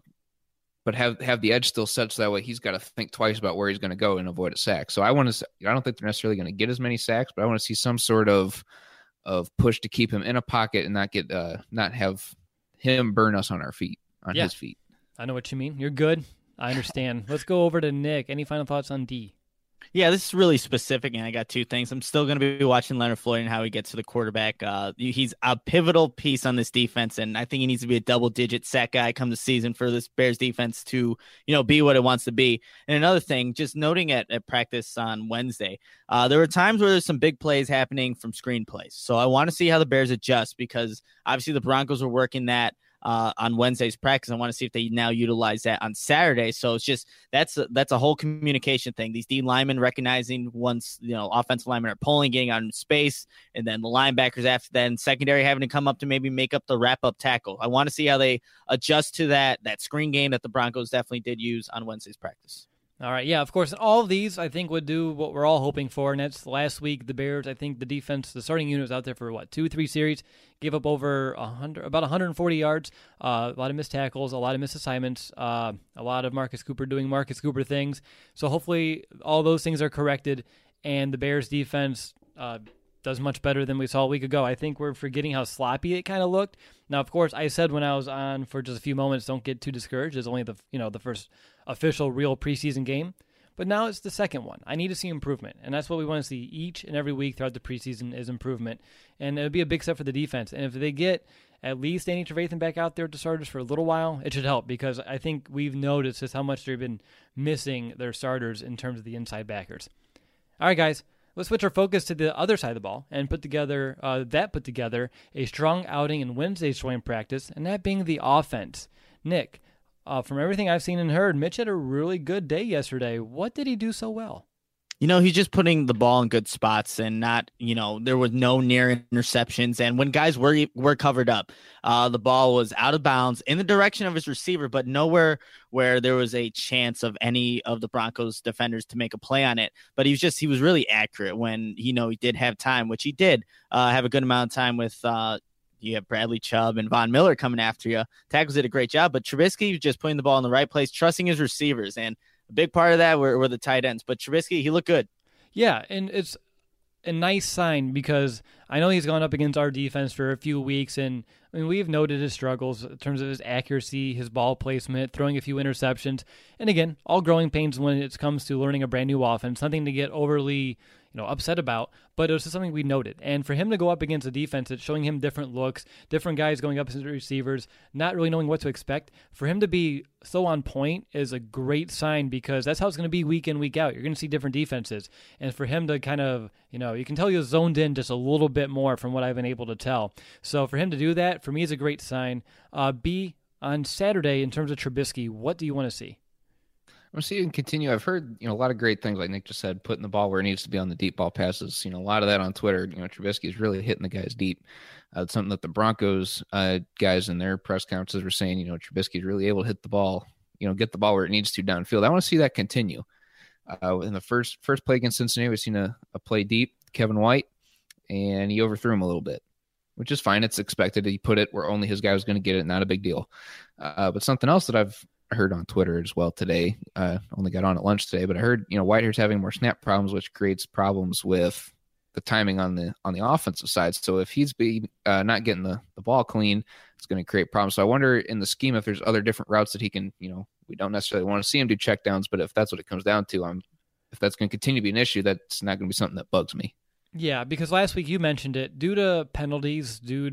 have the edge still set so that way he's got to think twice about where he's going to go and avoid a sack. So I don't think they're necessarily going to get as many sacks, but I want to see some sort of push to keep him in a pocket and not have him burn us on his feet. I know what you mean. You're good. I understand. Let's go over to Nick. Any final thoughts on D? Yeah, this is really specific, and I got 2 things. I'm still going to be watching Leonard Floyd and how he gets to the quarterback. He's a pivotal piece on this defense, and I think he needs to be a double-digit sack guy come the season for this Bears defense to, be what it wants to be. And another thing, just noting at practice on Wednesday, there were times where there's some big plays happening from screen plays. So I want to see how the Bears adjust, because obviously the Broncos were working that on Wednesday's practice. I want to see if they now utilize that on Saturday. So it's just that's a whole communication thing. These D linemen recognizing once offensive linemen are pulling, getting out in space, and then the linebackers after that, and secondary having to come up to maybe make up the wrap up tackle. I want to see how they adjust to that screen game that the Broncos definitely did use on Wednesday's practice. All right, yeah, of course. All of these, I think, would do what we're all hoping for, and that's last week, the Bears, I think the defense, the starting unit was out there for, 2-3 series, gave up over about 140 yards, a lot of missed tackles, a lot of missed assignments, a lot of Marcus Cooper doing Marcus Cooper things. So hopefully all those things are corrected, and the Bears defense does much better than we saw a week ago. I think we're forgetting how sloppy it kind of looked. Now, of course, I said when I was on for just a few moments, don't get too discouraged. It's only the first official real preseason game. But now it's the second one. I need to see improvement, and that's what we want to see each and every week throughout the preseason is improvement. And it would be a big step for the defense. And if they get at least Danny Trevathan back out there to starters for a little while, it should help because I think we've noticed just how much they've been missing their starters in terms of the inside backers. All right, guys. Let's switch our focus to the other side of the ball and put together a strong outing in Wednesday's joint practice, and that being the offense. Nick, from everything I've seen and heard, Mitch had a really good day yesterday. What did he do so well? He's just putting the ball in good spots and not, there was no near interceptions. And when guys were covered up, the ball was out of bounds in the direction of his receiver, but nowhere where there was a chance of any of the Broncos defenders to make a play on it. But he was really accurate when, he did have time, which he did have a good amount of time with, you have Bradley Chubb and Von Miller coming after you. Tackles did a great job, but Trubisky was just putting the ball in the right place, trusting his receivers. And a big part of that were the tight ends. But Trubisky, he looked good. Yeah, and it's a nice sign because I know he's gone up against our defense for a few weeks, and we've noted his struggles in terms of his accuracy, his ball placement, throwing a few interceptions. And again, all growing pains when it comes to learning a brand new offense, nothing to get overly upset about, but it was just something we noted. And for him to go up against a defense that's showing him different looks, different guys going up as receivers, not really knowing what to expect, for him to be so on point is a great sign because that's how it's going to be week in, week out. You're going to see different defenses. And for him to kind of, you can tell he was zoned in just a little bit more from what I've been able to tell. So for him to do that, for me, is a great sign. B, on Saturday, in terms of Trubisky, what do you want to see? I want to see him continue. I've heard, a lot of great things, like Nick just said, putting the ball where it needs to be on the deep ball passes. A lot of that on Twitter. Trubisky is really hitting the guys deep. It's something that the Broncos guys in their press conferences were saying. Trubisky is really able to hit the ball, get the ball where it needs to downfield. I want to see that continue. In the first play against Cincinnati, we've seen a play deep, Kevin White, and he overthrew him a little bit, which is fine. It's expected. He put it where only his guy was going to get it. Not a big deal. But something else that I've heard on Twitter as well today, only got on at lunch today, but I heard, Whitehair's having more snap problems, which creates problems with the timing on the offensive side. So if he's not getting the ball clean, it's going to create problems. So I wonder in the scheme if there's other different routes that he can, we don't necessarily want to see him do checkdowns, but if that's what it comes down to, if that's going to continue to be an issue, that's not going to be something that bugs me. Yeah, because last week you mentioned it, due to penalties, due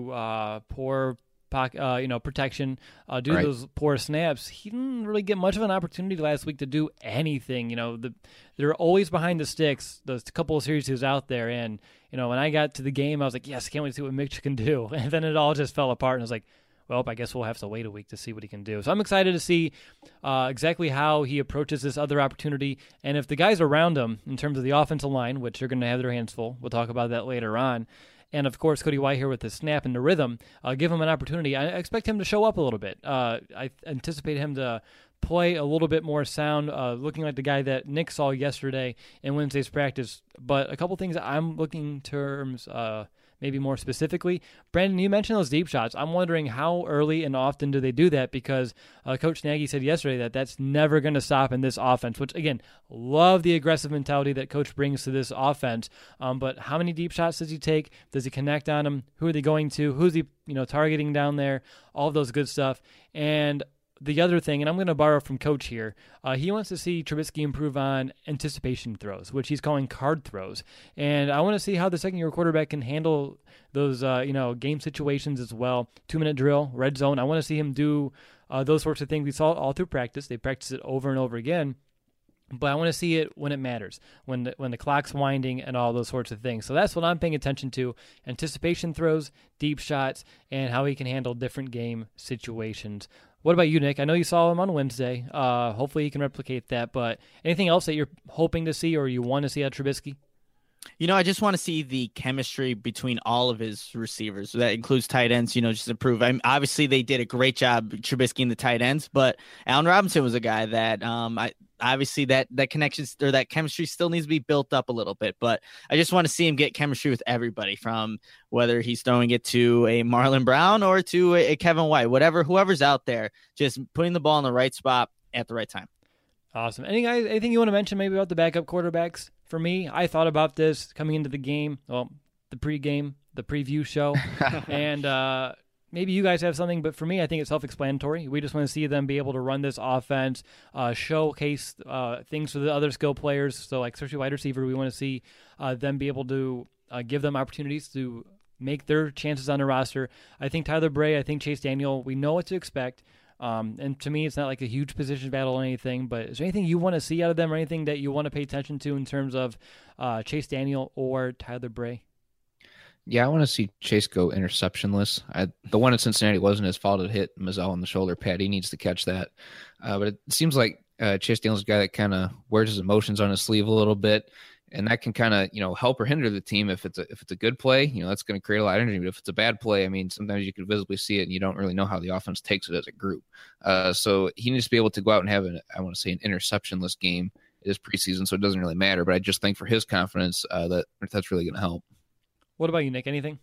to poor protection, due to those poor snaps, he didn't really get much of an opportunity last week to do anything. They're always behind the sticks, those couple of series he was out there. And, when I got to the game, I was like, yes, can't wait to see what Mitch can do. And then it all just fell apart. And I was like, well, I guess we'll have to wait a week to see what he can do. So I'm excited to see exactly how he approaches this other opportunity. And if the guys around him, in terms of the offensive line, which are going to have their hands full, we'll talk about that later on, and, of course, Cody Whitehair with the snap and the rhythm, give him an opportunity. I expect him to show up a little bit. I anticipate him to play a little bit more sound, looking like the guy that Nick saw yesterday in Wednesday's practice. But a couple things I'm looking in terms maybe more specifically. Brandon, you mentioned those deep shots. I'm wondering how early and often do they do that, because Coach Nagy said yesterday that that's never going to stop in this offense, which, again, love the aggressive mentality that Coach brings to this offense. But how many deep shots does he take? Does he connect on them? Who are they going to? Who's he targeting down there? All of those good stuff. And the other thing, and I'm going to borrow from Coach here, he wants to see Trubisky improve on anticipation throws, which he's calling card throws. And I want to see how the second-year quarterback can handle those, game situations as well. 2-minute drill, red zone. I want to see him do those sorts of things. We saw it all through practice. They practice it over and over again. But I want to see it when it matters, when the clock's winding and all those sorts of things. So that's what I'm paying attention to: anticipation throws, deep shots, and how he can handle different game situations. What about you, Nick? I know you saw him on Wednesday. Hopefully he can replicate that. But anything else that you're hoping to see or you want to see out of Trubisky? I just want to see the chemistry between all of his receivers. That includes tight ends, just improve. Obviously, they did a great job, Trubisky and the tight ends, but Allen Robinson was a guy that obviously that connection or that chemistry still needs to be built up a little bit, but I just want to see him get chemistry with everybody, from whether he's throwing it to a Marlon Brown or to a Kevin White, whoever's out there, just putting the ball in the right spot at the right time. Awesome. Anything you want to mention maybe about the backup quarterbacks? For me, I thought about this coming into the game, the pregame, the preview show, and maybe you guys have something, but for me, I think it's self-explanatory. We just want to see them be able to run this offense, showcase things for the other skill players. So, like, especially wide receiver, we want to see them be able to give them opportunities to make their chances on the roster. I think Tyler Bray, I think Chase Daniel, we know what to expect. And to me, it's not like a huge position battle or anything, but is there anything you want to see out of them or anything that you want to pay attention to in terms of Chase Daniel or Tyler Bray? Yeah, I want to see Chase go interceptionless. The one in Cincinnati wasn't his fault. It hit Mazzell on the shoulder pad. He needs to catch that. But it seems like Chase Daniel's a guy that kind of wears his emotions on his sleeve a little bit, and that can kind of help or hinder the team. If it's a good play, that's going to create a lot of energy. But if it's a bad play, I mean, sometimes you can visibly see it, and you don't really know how the offense takes it as a group. So he needs to be able to go out and have an interceptionless game. It is preseason, so it doesn't really matter. But I just think for his confidence, that's really going to help. What about you, Nick? Anything?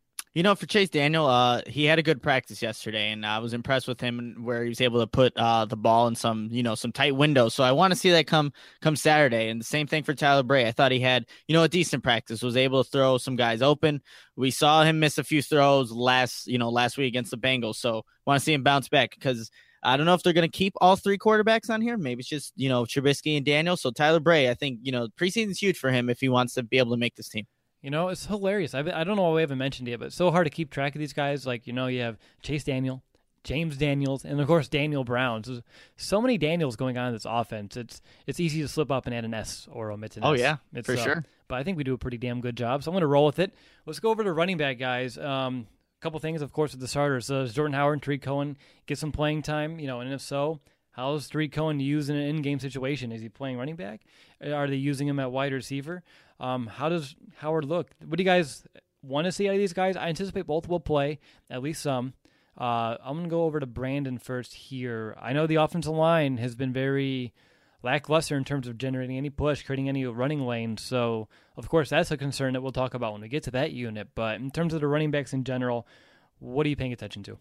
For Chase Daniel, he had a good practice yesterday, and I was impressed with him where he was able to put the ball in some tight windows. So I want to see that come Saturday. And the same thing for Tyler Bray. I thought he had, a decent practice, was able to throw some guys open. We saw him miss a few throws last week against the Bengals. So want to see him bounce back, because I don't know if they're going to keep all three quarterbacks on here. Maybe it's just, Trubisky and Daniel. So Tyler Bray, I think, preseason's huge for him if he wants to be able to make this team. It's hilarious. I don't know why we haven't mentioned it, but it's so hard to keep track of these guys. Like, you have Chase Daniel, James Daniels, and, of course, Daniel Brown. So many Daniels going on in this offense. It's easy to slip up and add an S or omit an S. Oh, yeah, for sure. But I think we do a pretty damn good job, so I'm going to roll with it. Let's go over to running back, guys. A couple things, of course, with the starters. Does Jordan Howard and Tariq Cohen get some playing time? And if so, how's Tariq Cohen used in an in-game situation? Is he playing running back? Are they using him at wide receiver? How does Howard look? What do you guys want to see out of these guys? I anticipate both will play, at least some. I'm going to go over to Brandon first here. I know the offensive line has been very lackluster in terms of generating any push, creating any running lanes. So, of course, that's a concern that we'll talk about when we get to that unit. But in terms of the running backs in general, what are you paying attention to?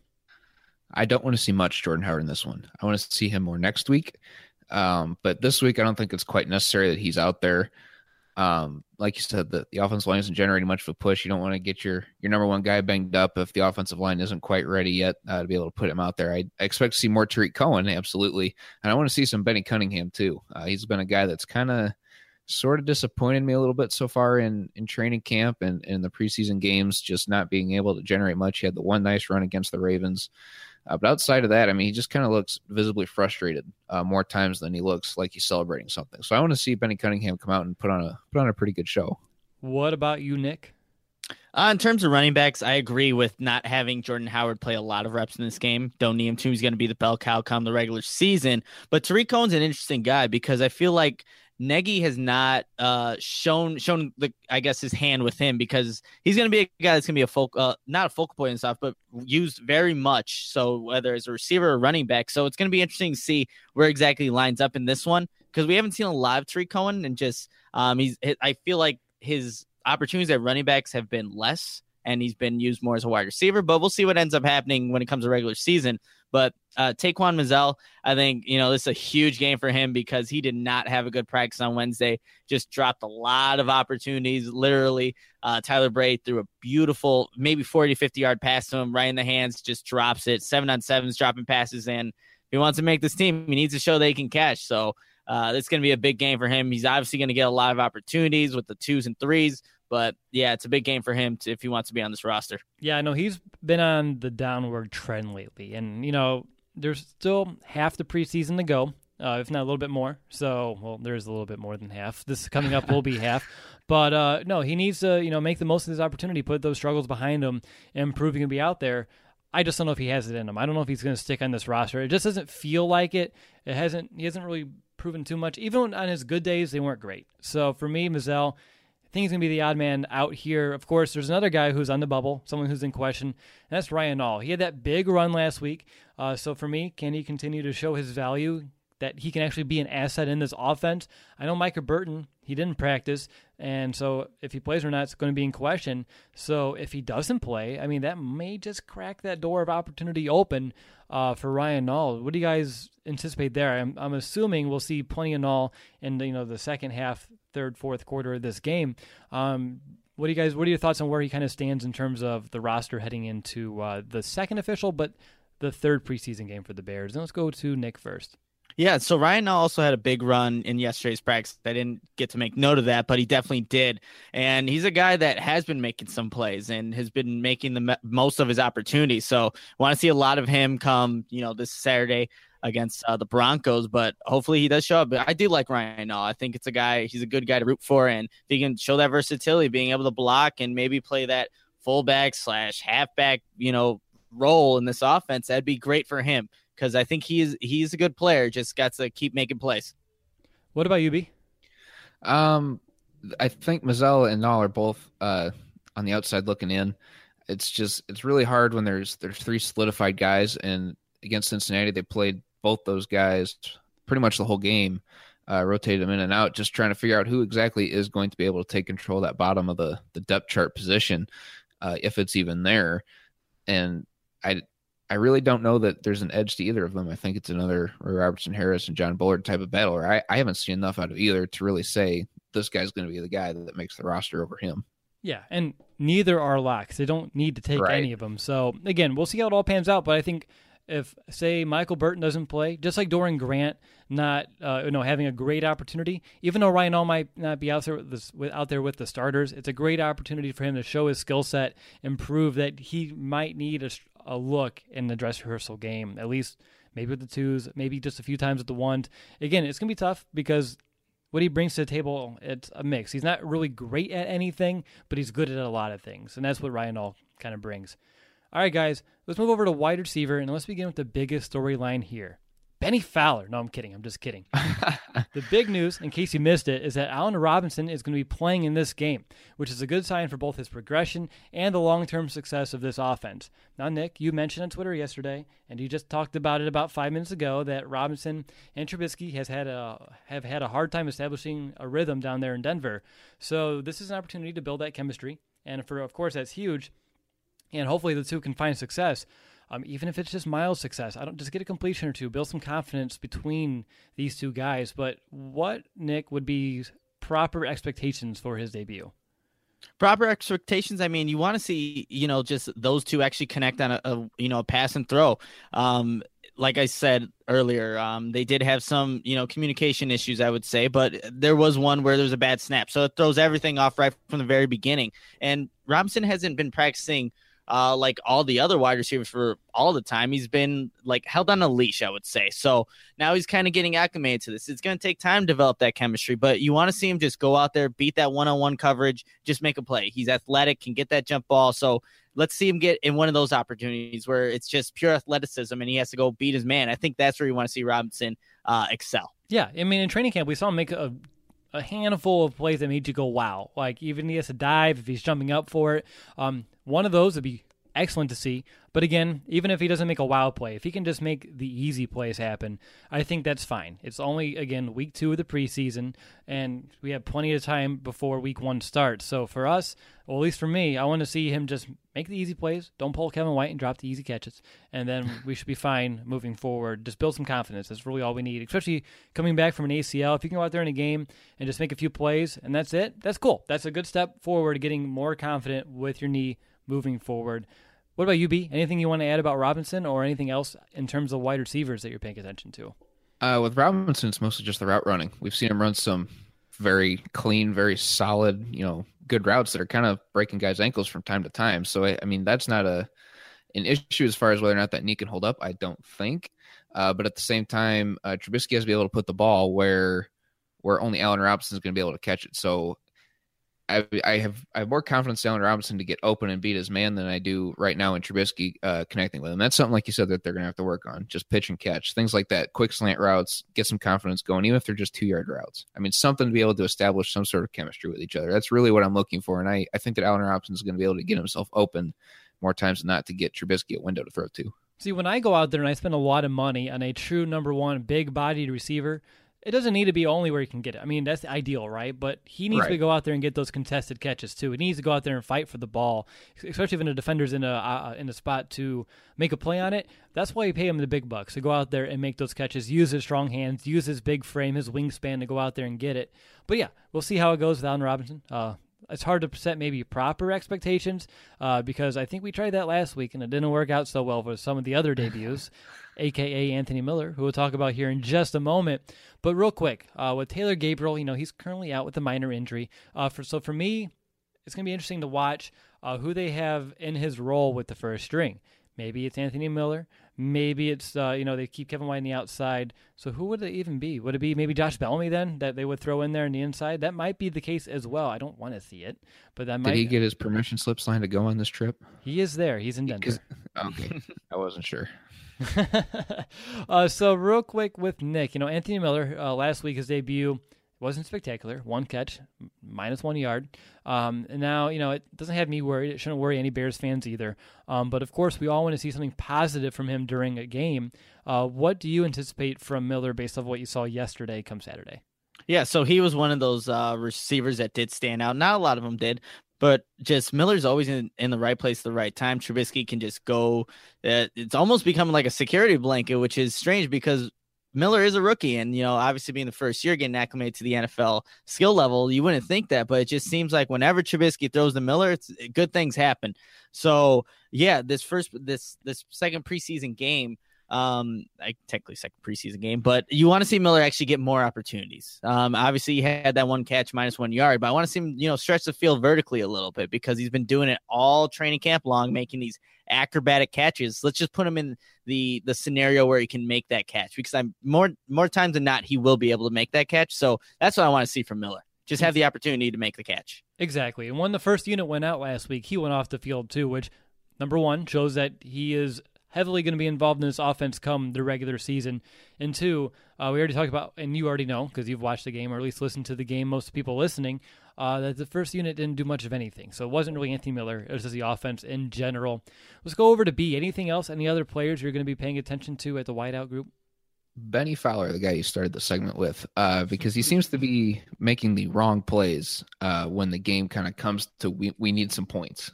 I don't want to see much Jordan Howard in this one. I want to see him more next week. But this week, I don't think it's quite necessary that he's out there. Like you said, the offensive line isn't generating much of a push. You don't want to get your number one guy banged up if the offensive line isn't quite ready yet to be able to put him out there. I expect to see more Tariq Cohen, absolutely. And I want to see some Benny Cunningham, too. He's been a guy that's kind of sort of disappointed me a little bit so far in training camp and in the preseason games, just not being able to generate much. He had the one nice run against the Ravens. But outside of that, I mean, he just kind of looks visibly frustrated more times than he looks like he's celebrating something. So I want to see Benny Cunningham come out and put on a pretty good show. What about you, Nick? In terms of running backs, I agree with not having Jordan Howard play a lot of reps in this game. Don't need him to. He's going to be the bell cow come the regular season. But Tariq Cohen's an interesting guy because I feel like Nagy has not shown his hand with him, because he's going to be a guy that's going to be not a focal point and stuff, but used very much. So whether as a receiver or running back, so it's going to be interesting to see where exactly he lines up in this one, because we haven't seen a lot of Tariq Cohen, and just I feel like his opportunities at running backs have been less, and he's been used more as a wide receiver. But we'll see what ends up happening when it comes to regular season. But Taquan Mazzell, I think, this is a huge game for him because he did not have a good practice on Wednesday. Just dropped a lot of opportunities. Literally, Tyler Bray threw a beautiful, maybe 40, 50-yard pass to him right in the hands, just drops it. 7-on-7s, dropping passes in. If he wants to make this team, he needs to show that he can catch. So it's going to be a big game for him. He's obviously going to get a lot of opportunities with the 2s and 3s. But, yeah, it's a big game for him if he wants to be on this roster. Yeah, I know he's been on the downward trend lately. And, there's still half the preseason to go, if not a little bit more. So, well, there's a little bit more than half. This coming up will be half. But, no, he needs to, make the most of this opportunity, put those struggles behind him, and prove he can be out there. I just don't know if he has it in him. I don't know if he's going to stick on this roster. It just doesn't feel like it. He hasn't really proven too much. Even on his good days, they weren't great. So, for me, Mazzell, I think he's going to be the odd man out here. Of course, there's another guy who's on the bubble, someone who's in question, and that's Ryan Nall. He had that big run last week. So for me, can he continue to show his value that he can actually be an asset in this offense. I know Micah Burton, he didn't practice, and so if he plays or not, it's going to be in question. So if he doesn't play, I mean, that may just crack that door of opportunity open for Ryan Nall. What do you guys anticipate there? I'm assuming we'll see plenty of Nall in the second half, third, fourth quarter of this game. What are your thoughts on where he kind of stands in terms of the roster heading into the second official, but the third preseason game for the Bears? And let's go to Nick first. Yeah, so Ryan Nall also had a big run in yesterday's practice. I didn't get to make note of that, but he definitely did. And he's a guy that has been making some plays and has been making the most of his opportunities. So I want to see a lot of him come, this Saturday against the Broncos, but hopefully he does show up. But I do like Ryan Nall. I think he's a good guy to root for. And if he can show that versatility, being able to block and maybe play that fullback / halfback, role in this offense, that'd be great for him. Because I think he's a good player, just got to keep making plays. What about you, B? I think Mazzella and Nall are both on the outside looking in. It's really hard when there's three solidified guys, and against Cincinnati they played both those guys pretty much the whole game, rotated them in and out, just trying to figure out who exactly is going to be able to take control of that bottom of the depth chart position, if it's even there. And I really don't know that there's an edge to either of them. I think it's another Roy Robertson Harris and John Bullard type of battle. Or I haven't seen enough out of either to really say this guy's going to be the guy that makes the roster over him. Yeah, and neither are locks. They don't need to take any of them. So, again, we'll see how it all pans out. But I think if, say, Michael Burton doesn't play, just like Dorian Grant not having a great opportunity, even though Ryan Nall might not be out there with the starters, it's a great opportunity for him to show his skill set and prove that he might need a look in the dress rehearsal game, at least maybe with the twos, maybe just a few times with the ones. Again, it's going to be tough because what he brings to the table, it's a mix. He's not really great at anything, but he's good at a lot of things, and that's what Ryan Nall kind of brings. All right, guys, let's move over to wide receiver, and let's begin with the biggest storyline here. Benny Fowler. No, I'm kidding. I'm just kidding. The big news, in case you missed it, is that Allen Robinson is going to be playing in this game, which is a good sign for both his progression and the long-term success of this offense. Now, Nick, you mentioned on Twitter yesterday, and you just talked about it about 5 minutes ago, that Robinson and Trubisky have had a hard time establishing a rhythm down there in Denver. So this is an opportunity to build that chemistry, and of course, that's huge. And hopefully the two can find success. Even if it's just mild success, just get a completion or two, build some confidence between these two guys. But what, Nick, would be proper expectations for his debut? Proper expectations. I mean, you want to see, just those two actually connect on a pass and throw. Like I said earlier, they did have some, communication issues, I would say, but there was one where there was a bad snap. So it throws everything off right from the very beginning. And Robinson hasn't been practicing like all the other wide receivers for all the time. He's been held on a leash, I would say. So now he's kind of getting acclimated to this. It's going to take time to develop that chemistry, but you want to see him just go out there, beat that one-on-one coverage, just make a play. He's athletic, can get that jump ball. So let's see him get in one of those opportunities where it's just pure athleticism and he has to go beat his man. I think that's where you want to see Robinson excel. Yeah. I mean, in training camp, we saw him make a handful of plays that made you go, wow. Even he has to dive if he's jumping up for it. One of those would be excellent to see. But again, even if he doesn't make a wow play, if he can just make the easy plays happen, I think that's fine. It's only, again, week 2 of the preseason, and we have plenty of time before week 1 starts. So for us, well, at least for me, I want to see him just make the easy plays. Don't pull Kevin White and drop the easy catches. And then we should be fine moving forward. Just build some confidence. That's really all we need, especially coming back from an ACL. If you can go out there in a game and just make a few plays and that's it, that's cool. That's a good step forward to getting more confident with your knee moving forward. What about you, B? Anything you want to add about Robinson or anything else in terms of wide receivers that you're paying attention to? With Robinson, it's mostly just the route running. We've seen him run some very clean, very solid, good routes that are kind of breaking guys' ankles from time to time. So, I mean, that's not an issue as far as whether or not that knee can hold up, I don't think. But at the same time, Trubisky has to be able to put the ball where only Allen Robinson is going to be able to catch it. So I have more confidence in Allen Robinson to get open and beat his man than I do right now in Trubisky connecting with him. That's something, like you said, that they're going to have to work on. Just pitch and catch, things like that, quick slant routes, get some confidence going, even if they're just 2-yard routes. I mean, something to be able to establish some sort of chemistry with each other. That's really what I'm looking for, and I think that Allen Robinson is going to be able to get himself open more times than not to get Trubisky a window to throw to. See, when I go out there and I spend a lot of money on a true number one big-bodied receiver, it doesn't need to be only where he can get it. I mean, that's the ideal, right? But he needs to go out there and get those contested catches too. He needs to go out there and fight for the ball, especially when the defender's in a spot to make a play on it. That's why you pay him the big bucks, to go out there and make those catches, use his strong hands, use his big frame, his wingspan to go out there and get it. But yeah, we'll see how it goes with Allen Robinson. It's hard to set maybe proper expectations because I think we tried that last week and it didn't work out so well with some of the other debuts, a.k.a. Anthony Miller, who we'll talk about here in just a moment. But real quick, with Taylor Gabriel, he's currently out with a minor injury. So for me, it's going to be interesting to watch who they have in his role with the first string. Maybe it's Anthony Miller. Maybe it's, they keep Kevin White on the outside. So who would it even be? Would it be maybe Josh Bellamy then that they would throw in there on the inside? That might be the case as well. I don't want to see it, but that might. Did he get his permission slip signed to go on this trip? He is there. He's in Denver. Okay. I wasn't sure. So real quick with Nick, Anthony Miller, last week his debut wasn't spectacular. 1 catch, -1 yard. And now, it doesn't have me worried. It shouldn't worry any Bears fans either. But of course, we all want to see something positive from him during a game. What do you anticipate from Miller based off what you saw yesterday come Saturday? Yeah, so he was one of those receivers that did stand out. Not a lot of them did, but just Miller's always in the right place at the right time. Trubisky can just go. It's almost becoming like a security blanket, which is strange because Miller is a rookie, and obviously being the first year getting acclimated to the NFL skill level, you wouldn't think that, but it just seems like whenever Trubisky throws to Miller, good things happen. So yeah, this second preseason game, technically second preseason game, but you want to see Miller actually get more opportunities. Obviously he had that 1 catch, -1 yard, but I want to see him, stretch the field vertically a little bit because he's been doing it all training camp long, making these acrobatic catches. Let's just put him in the scenario where he can make that catch because I'm more times than not, he will be able to make that catch. So that's what I want to see from Miller. Just have the opportunity to make the catch. Exactly. And when the first unit went out last week, he went off the field too, which number one shows that he is heavily going to be involved in this offense come the regular season. And two, we already talked about, and you already know because you've watched the game or at least listened to the game, most people listening, that the first unit didn't do much of anything. So it wasn't really Anthony Miller. It was just the offense in general. Let's go over to B. Anything else? Any other players you're going to be paying attention to at the wideout group? Benny Fowler, the guy you started the segment with, because he seems to be making the wrong plays when the game kind of comes to we need some points.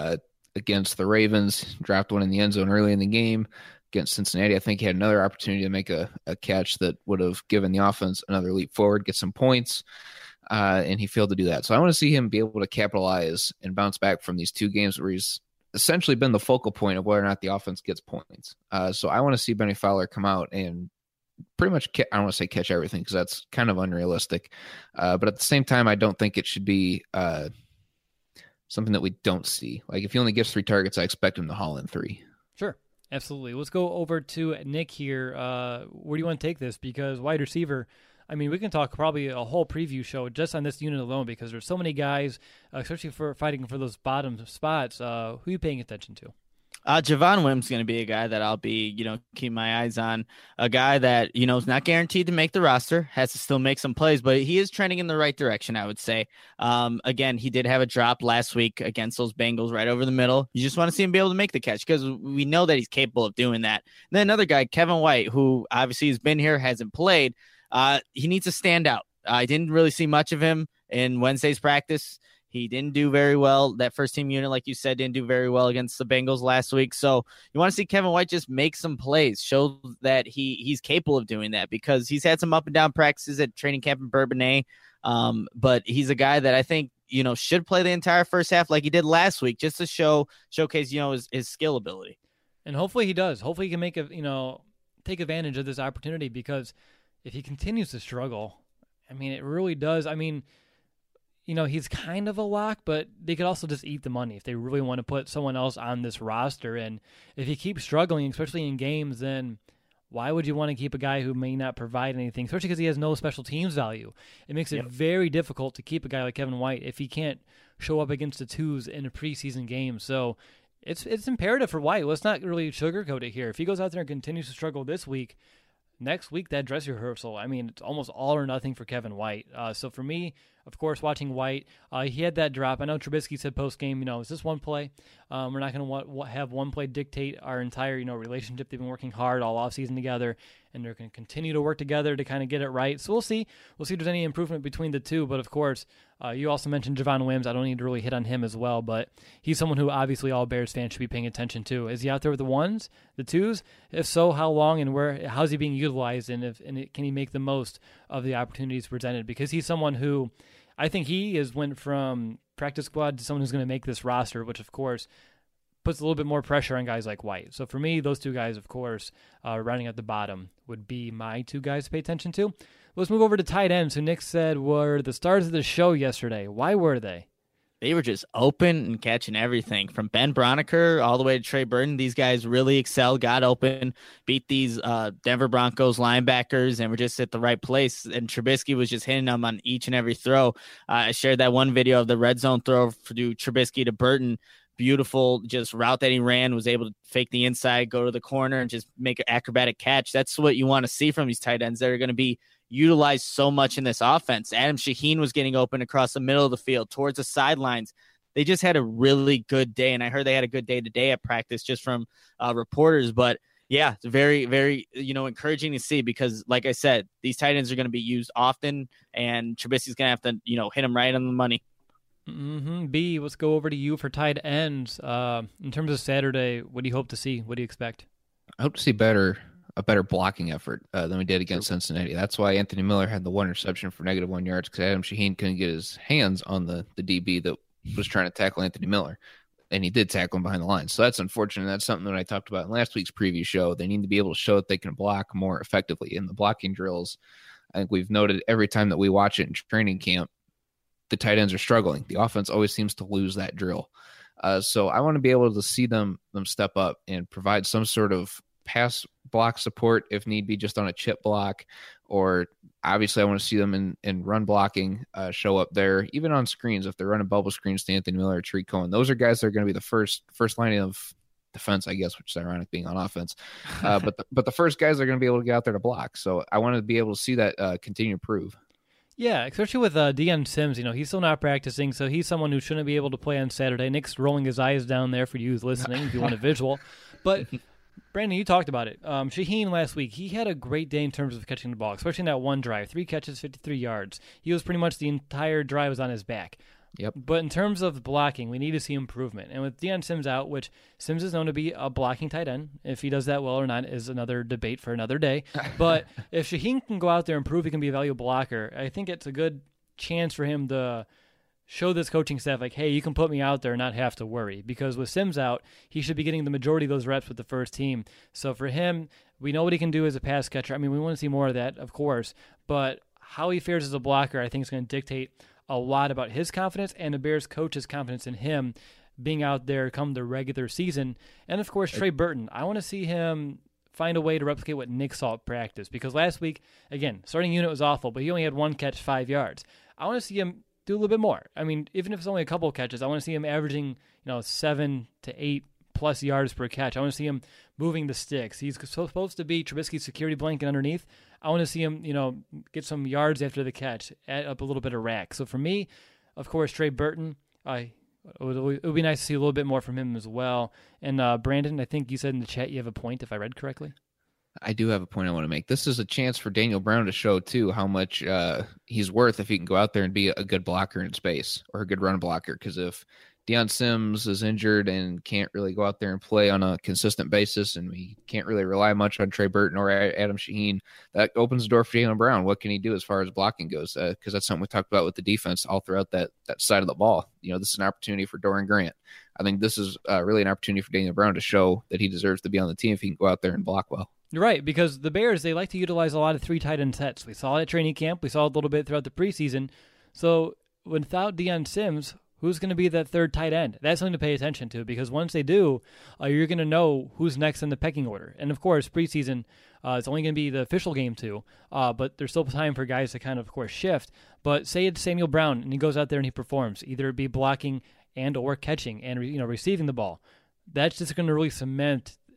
Against the Ravens, dropped one in the end zone early in the game. Against Cincinnati, I think he had another opportunity to make a catch that would have given the offense another leap forward, get some points, and he failed to do that. So I want to see him be able to capitalize and bounce back from these 2 games where he's essentially been the focal point of whether or not the offense gets points. So I want to see Benny Fowler come out and pretty much, I don't want to say catch everything because that's kind of unrealistic. But at the same time, I don't think it should be something that we don't see. Like if he only gets 3 targets, I expect him to haul in 3. Sure. Absolutely. Let's go over to Nick here. Where do you want to take this? Because wide receiver, I mean, we can talk probably a whole preview show just on this unit alone because there's so many guys, especially for fighting for those bottom spots. Who are you paying attention to? Javon Wims is going to be a guy that I'll be, keeping my eyes on. A guy that, is not guaranteed to make the roster, has to still make some plays, but he is trending in the right direction, I would say. Again, he did have a drop last week against those Bengals right over the middle. You just want to see him be able to make the catch because we know that he's capable of doing that. And then another guy, Kevin White, who obviously has been here, hasn't played. He needs to stand out. I didn't really see much of him in Wednesday's practice. He didn't do very well. That first team unit, like you said, didn't do very well against the Bengals last week. So you want to see Kevin White just make some plays, show that he's capable of doing that because he's had some up and down practices at training camp in Bourbonnais. But he's a guy that I think, should play the entire first half like he did last week just to showcase, his skill ability. And hopefully he does. Hopefully he can make take advantage of this opportunity because if he continues to struggle, I mean, it really does. I mean, he's kind of a lock, but they could also just eat the money if they really want to put someone else on this roster. And if he keeps struggling, especially in games, then why would you want to keep a guy who may not provide anything, especially because he has no special teams value? It makes it very difficult to keep a guy like Kevin White if he can't show up against the twos in a preseason game. So it's imperative for White. Let's not really sugarcoat it here. If he goes out there and continues to struggle this week, next week, that dress rehearsal, I mean, it's almost all or nothing for Kevin White. So for me, of course, watching White, he had that drop. I know Trubisky said post-game, it's just one play. We're not going to have one play dictate our entire, relationship. They've been working hard all offseason together, and they're going to continue to work together to kind of get it right. So we'll see. We'll see if there's any improvement between the two. But, of course, you also mentioned Javon Wims. I don't need to really hit on him as well, but he's someone who obviously all Bears fans should be paying attention to. Is he out there with the ones, the twos? If so, how long and where? How's he being utilized, and can he make the most of the opportunities presented? Because he's someone who I think he went from practice squad to someone who's going to make this roster, which, of course, puts a little bit more pressure on guys like White. So for me, those two guys, of course, rounding at the bottom would be my two guys to pay attention to. Let's move over to tight ends, who Nick said were the stars of the show yesterday. Why were they? They were just open and catching everything from Ben Broniker all the way to Trey Burton. These guys really excelled, got open, beat these Denver Broncos linebackers, and were just at the right place. And Trubisky was just hitting them on each and every throw. I shared that one video of the red zone throw to Trubisky to Burton. Beautiful just route that he ran, was able to fake the inside, go to the corner, and just make an acrobatic catch. That's what you want to see from these tight ends. They're going to be utilized so much in this offense. Adam Shaheen was getting open across the middle of the field towards the sidelines. They just had a really good day, and I heard they had a good day today at practice just from reporters. But yeah, it's very, very, encouraging to see, because like I said, these tight ends are going to be used often, and Trubisky's going to have to, hit them right on the money. Mm-hmm. B, let's go over to you for tight ends. In terms of Saturday, what do you hope to see? What do you expect? I hope to see a better blocking effort than we did against Cincinnati. That's why Anthony Miller had the one reception for -1 yards, because Adam Shaheen couldn't get his hands on the DB that was trying to tackle Anthony Miller, and he did tackle him behind the line. So that's unfortunate. That's something that I talked about in last week's preview show. They need to be able to show that they can block more effectively in the blocking drills. I think we've noted every time that we watch it in training camp, the tight ends are struggling. The offense always seems to lose that drill. So I want to be able to see them step up and provide some sort of pass block support if need be, just on a chip block, or obviously I want to see them in run blocking show up there, even on screens if they're running bubble screens to Anthony Miller or Tariq Cohen. Those are guys that are going to be the first line of defense, I guess, which is ironic being on offense. But the first guys are going to be able to get out there to block. So I want to be able to see that continue to improve. Yeah, especially with Deion Sims, he's still not practicing, so he's someone who shouldn't be able to play on Saturday. Nick's rolling his eyes down there for you who's listening if you want a visual. But Brandon, you talked about it. Shaheen last week, he had a great day in terms of catching the ball, especially in that one drive. 3 catches, 53 yards. He was pretty much the entire drive was on his back. Yep. But in terms of blocking, we need to see improvement. And with Deion Sims out, which Sims is known to be a blocking tight end, if he does that well or not is another debate for another day. But if Shaheen can go out there and prove he can be a valuable blocker, I think it's a good chance for him to show this coaching staff, like, hey, you can put me out there and not have to worry. Because with Sims out, he should be getting the majority of those reps with the first team. So for him, we know what he can do as a pass catcher. I mean, we want to see more of that, of course. But how he fares as a blocker, I think, is going to dictate a lot about his confidence and the Bears coach's confidence in him being out there come the regular season. And, of course, Trey Burton. I want to see him find a way to replicate what Nick saw at practice. Because last week, again, starting unit was awful, but he only had 1 catch, 5 yards. I want to see him do a little bit more. I mean, even if it's only a couple of catches, I want to see him averaging, 7 to 8 plus yards per catch. I want to see him moving the sticks. He's supposed to be Trubisky's security blanket underneath. I want to see him, get some yards after the catch, add up a little bit of rack. So for me, of course, Trey Burton, it would be nice to see a little bit more from him as well. And Brandon, I think you said in the chat you have a point, if I read correctly. I do have a point I want to make. This is a chance for Daniel Brown to show, too, how much he's worth if he can go out there and be a good blocker in space or a good run blocker. Because if Deion Sims is injured and can't really go out there and play on a consistent basis, and we can't really rely much on Trey Burton or Adam Shaheen, that opens the door for Daniel Brown. What can he do as far as blocking goes? Because that's something we talked about with the defense all throughout that side of the ball. This is an opportunity for Dorian Grant. I think this is really an opportunity for Daniel Brown to show that he deserves to be on the team if he can go out there and block well. You're right, because the Bears, they like to utilize a lot of 3 tight end sets. We saw it at training camp. We saw it a little bit throughout the preseason. So without Deion Sims, who's going to be that third tight end? That's something to pay attention to, because once they do, you're going to know who's next in the pecking order. And, of course, preseason, it's only going to be the official game too, but there's still time for guys to kind of course, shift. But say it's Samuel Brown, and he goes out there and he performs, either it be blocking and or catching and receiving the ball. That's just going to really cement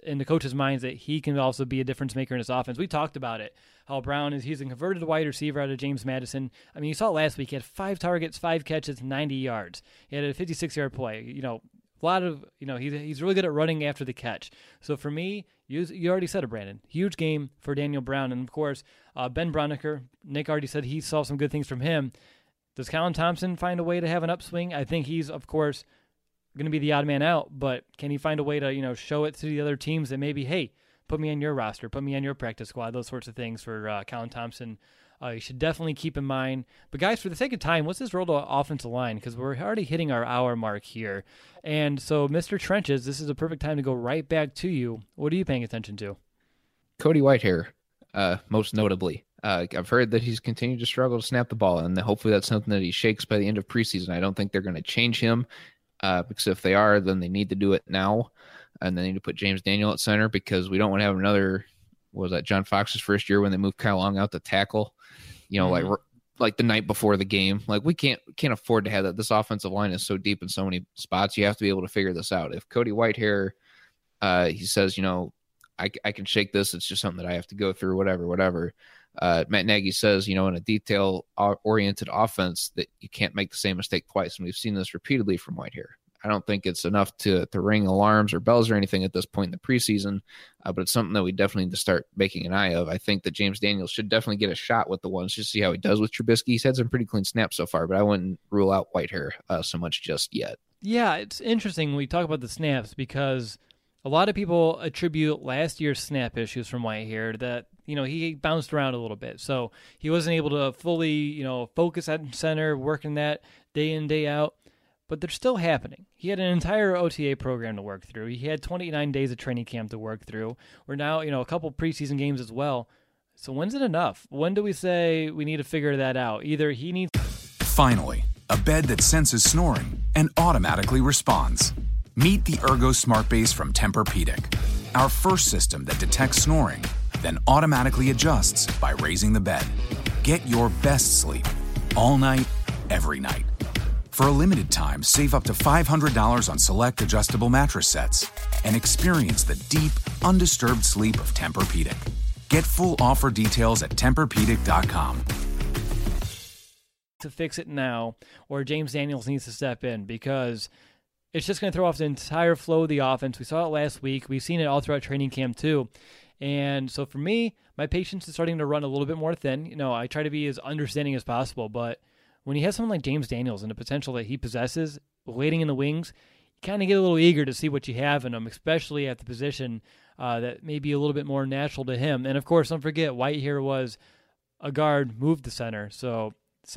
in the coach's minds that he can also be a difference maker in his offense. We talked about it, how Brown he's a converted wide receiver out of James Madison. I mean, you saw it last week. He had 5 targets, 5 catches, 90 yards. He had a 56-yard play. A lot of, he's really good at running after the catch. So for me, you already said it, Brandon. Huge game for Daniel Brown. And, of course, Ben Broniker, Nick already said he saw some good things from him. Does Colin Thompson find a way to have an upswing? I think he's, of course, going to be the odd man out, but can he find a way to, show it to the other teams that maybe, hey, put me on your roster, put me on your practice squad, those sorts of things for Colin Thompson. You should definitely keep in mind. But, guys, for the sake of time, what's this role to offensive line? Because we're already hitting our hour mark here. And so, Mr. Trenches, this is a perfect time to go right back to you. What are you paying attention to? Cody Whitehair, most notably. I've heard that he's continued to struggle to snap the ball, and hopefully that's something that he shakes by the end of preseason. I don't think they're going to change him. Because if they are, then they need to do it now, and they need to put James Daniel at center because we don't want to have another. What was that John Fox's first year when they moved Kyle Long out to tackle? Like the night before the game. Like we can't afford to have that. This offensive line is so deep in so many spots. You have to be able to figure this out. If Cody Whitehair, he says, I can shake this. It's just something that I have to go through. Whatever. Matt Nagy says, in a detail-oriented offense that you can't make the same mistake twice, and we've seen this repeatedly from Whitehair. I don't think it's enough to ring alarms or bells or anything at this point in the preseason, but it's something that we definitely need to start making an eye of. I think that James Daniels should definitely get a shot with the ones, just see how he does with Trubisky. He's had some pretty clean snaps so far, but I wouldn't rule out Whitehair so much just yet. Yeah, it's interesting when we talk about the snaps because a lot of people attribute last year's snap issues from Whitehair that, he bounced around a little bit. So he wasn't able to fully, focus at center, working that day in, day out. But they're still happening. He had an entire OTA program to work through. He had 29 days of training camp to work through. We're now, a couple preseason games as well. So when's it enough? When do we say we need to figure that out? Either he needs... Finally, a bed that senses snoring and automatically responds. Meet the Ergo Smart Base from Tempur-Pedic, our first system that detects snoring, then automatically adjusts by raising the bed. Get your best sleep all night, every night. For a limited time, save up to $500 on select adjustable mattress sets and experience the deep, undisturbed sleep of Tempur-Pedic. Get full offer details at TempurPedic.com. To fix it now, or James Daniels needs to step in because it's just going to throw off the entire flow of the offense. We saw it last week. We've seen it all throughout training camp too. And so for me, my patience is starting to run a little bit more thin. I try to be as understanding as possible, but when you have someone like James Daniels and the potential that he possesses waiting in the wings, you kind of get a little eager to see what you have in him, especially at the position that may be a little bit more natural to him. And, of course, don't forget, Whitehair was a guard, moved to center. So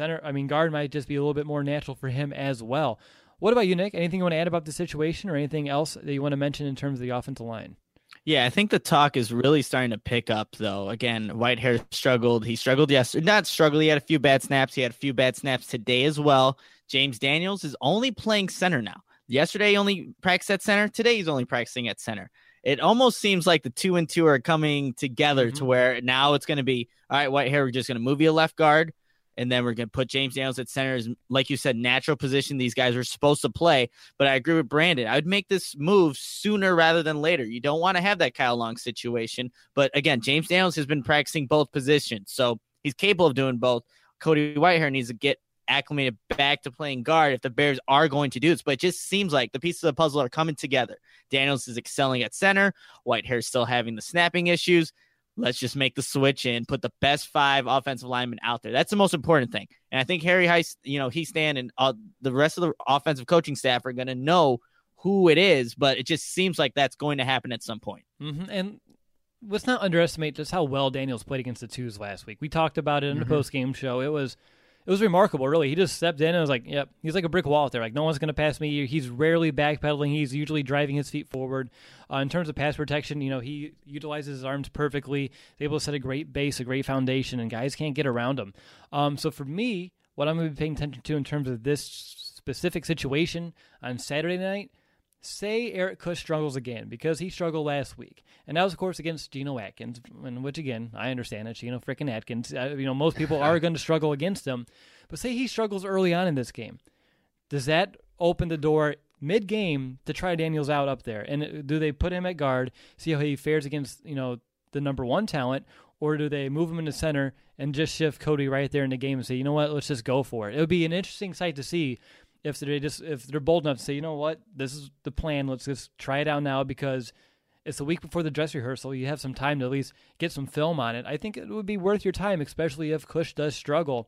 guard might just be a little bit more natural for him as well. What about you, Nick? Anything you want to add about the situation or anything else that you want to mention in terms of the offensive line? Yeah, I think the talk is really starting to pick up, though. Again, Whitehair struggled. He struggled yesterday. Not struggled. He had a few bad snaps. He had a few bad snaps today as well. James Daniels is only playing center now. Yesterday, he only practiced at center. Today, he's only practicing at center. It almost seems like the 2 and 2 are coming together to where now it's going to be, all right, Whitehair, we're just going to move you a left guard. And then we're going to put James Daniels at center as, like you said, natural position these guys are supposed to play. But I agree with Brandon. I would make this move sooner rather than later. You don't want to have that Kyle Long situation. But again, James Daniels has been practicing both positions, so he's capable of doing both. Cody Whitehair needs to get acclimated back to playing guard if the Bears are going to do this. But it just seems like the pieces of the puzzle are coming together. Daniels is excelling at center. Whitehair is still having the snapping issues. Let's just make the switch and put the best 5 offensive linemen out there. That's the most important thing. And I think Harry Heist, Hiestand and the rest of the offensive coaching staff are going to know who it is, but it just seems like that's going to happen at some point. Mm-hmm. And let's not underestimate just how well Daniels played against the twos last week. We talked about it in the post-game show. It was remarkable, really. He just stepped in and was like, yep, he's like a brick wall out there. Like, no one's going to pass me. He's rarely backpedaling. He's usually driving his feet forward. In terms of pass protection, he utilizes his arms perfectly. He's able to set a great base, a great foundation, and guys can't get around him. So for me, what I'm going to be paying attention to in terms of this specific situation on Saturday night, say Eric Kush struggles again, because he struggled last week. And that was, of course, against Geno Atkins, which, again, I understand it. Geno freaking Atkins. Most people are going to struggle against him. But say he struggles early on in this game. Does that open the door mid-game to try Daniels out up there? And do they put him at guard, see how he fares against, the number one talent, or do they move him into center and just shift Cody right there in the game and say, you know what, let's just go for it? It would be an interesting sight to see if they're bold enough to say, you know what, this is the plan. Let's just try it out now because it's the week before the dress rehearsal. You have some time to at least get some film on it. I think it would be worth your time, especially if Kush does struggle.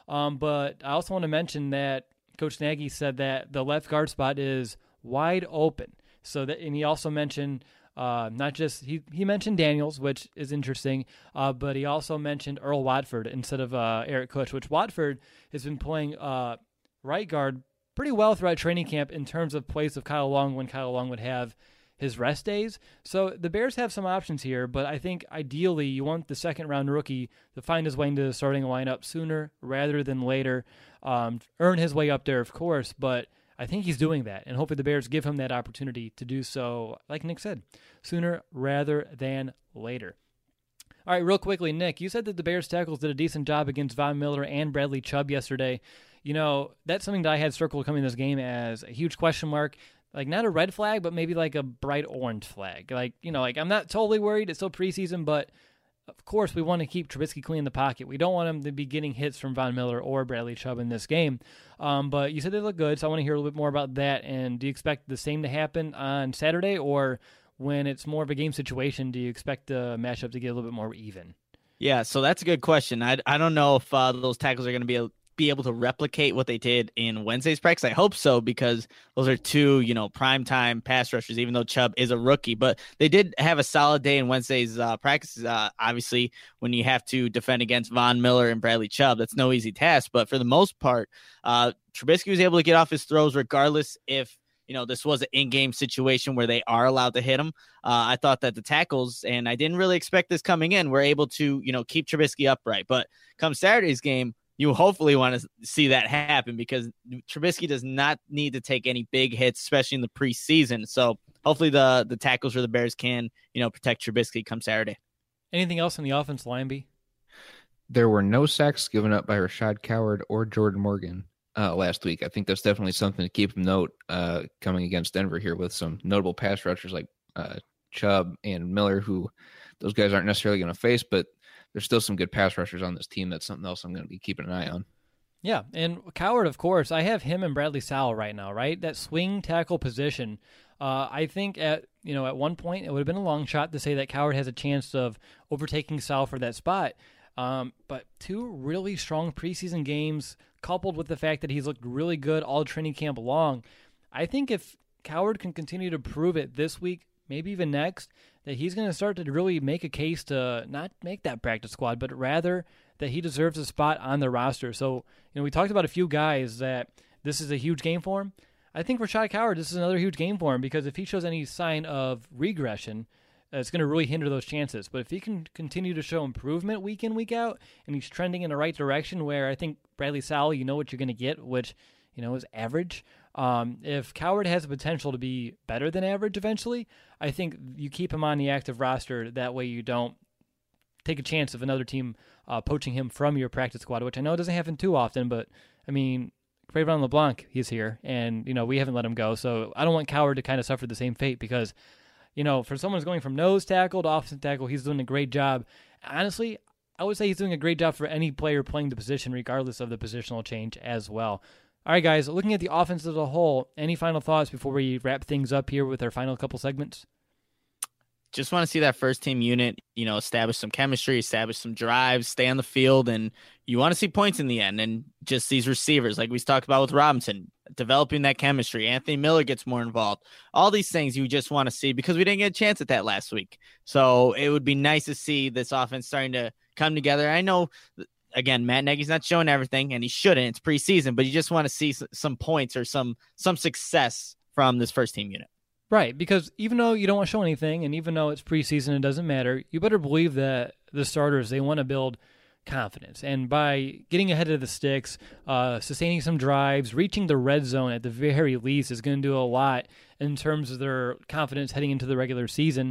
But I also want to mention that Coach Nagy said that the left guard spot is wide open. And he also mentioned not just he mentioned Daniels, which is interesting, but he also mentioned Earl Watford instead of Eric Kush, which Watford has been playing right guard pretty well throughout training camp in terms of place of Kyle Long when Kyle Long would have his rest days. So the Bears have some options here, but I think ideally you want the second-round rookie to find his way into the starting lineup sooner rather than later, earn his way up there, of course, but I think he's doing that, and hopefully the Bears give him that opportunity to do so, like Nick said, sooner rather than later. All right, real quickly, Nick, you said that the Bears tackles did a decent job against Von Miller and Bradley Chubb yesterday. That's something that I had circled coming this game as a huge question mark. Like, not a red flag, but maybe like a bright orange flag. I'm not totally worried. It's still preseason, but of course we want to keep Trubisky clean in the pocket. We don't want him to be getting hits from Von Miller or Bradley Chubb in this game. But you said they look good, so I want to hear a little bit more about that. And do you expect the same to happen on Saturday, or when it's more of a game situation, do you expect the matchup to get a little bit more even? Yeah, so that's a good question. I don't know if those tackles are going to be able to replicate what they did in Wednesday's practice. I hope so, because those are two, primetime pass rushers, even though Chubb is a rookie. But they did have a solid day in Wednesday's practice. Obviously, when you have to defend against Von Miller and Bradley Chubb, that's no easy task. But for the most part, Trubisky was able to get off his throws regardless if this was an in-game situation where they are allowed to hit him. I thought that the tackles, and I didn't really expect this coming in, were able to, keep Trubisky upright. But come Saturday's game, you hopefully want to see that happen, because Trubisky does not need to take any big hits, especially in the preseason. So hopefully the tackles for the Bears can, protect Trubisky come Saturday. Anything else in the offense line, B? There were no sacks given up by Rashad Coward or Jordan Morgan last week. I think that's definitely something to keep note coming against Denver here, with some notable pass rushers like Chubb and Miller, who those guys aren't necessarily going to face, but there's still some good pass rushers on this team. That's something else I'm going to be keeping an eye on. Yeah, and Coward, of course, I have him and Bradley Sowell right now, right? That swing tackle position. I think at one point it would have been a long shot to say that Coward has a chance of overtaking Sowell for that spot. But two really strong preseason games, coupled with the fact that he's looked really good all training camp long, I think if Coward can continue to prove it this week, maybe even next, that he's going to start to really make a case to not make that practice squad, but rather that he deserves a spot on the roster. So, we talked about a few guys that this is a huge game for him. I think Rashad Coward, this is another huge game for him, because if he shows any sign of regression, it's going to really hinder those chances. But if he can continue to show improvement week in, week out, and he's trending in the right direction, where I think Bradley Sowell, you know what you're going to get, which, is average. If Coward has the potential to be better than average eventually, I think you keep him on the active roster. That way you don't take a chance of another team poaching him from your practice squad, which I know doesn't happen too often, but, Trayvon LeBlanc, he's here, and, we haven't let him go. So I don't want Coward to kind of suffer the same fate, because, for someone who's going from nose tackle to offensive tackle, he's doing a great job. Honestly, I would say he's doing a great job for any player playing the position, regardless of the positional change as well. All right, guys, looking at the offense as a whole, any final thoughts before we wrap things up here with our final couple segments? Just want to see that first team unit, establish some chemistry, establish some drives, stay on the field, and you want to see points in the end. And just these receivers, like we talked about with Robinson, developing that chemistry. Anthony Miller gets more involved. All these things you just want to see, because we didn't get a chance at that last week. So it would be nice to see this offense starting to come together. I know, again, Matt Nagy's not showing everything, and he shouldn't. It's preseason, but you just want to see some points or some success from this first team unit. Right, because even though you don't want to show anything, and even though it's preseason, it doesn't matter, you better believe that the starters, they want to build confidence. And by getting ahead of the sticks, sustaining some drives, reaching the red zone at the very least is going to do a lot in terms of their confidence heading into the regular season.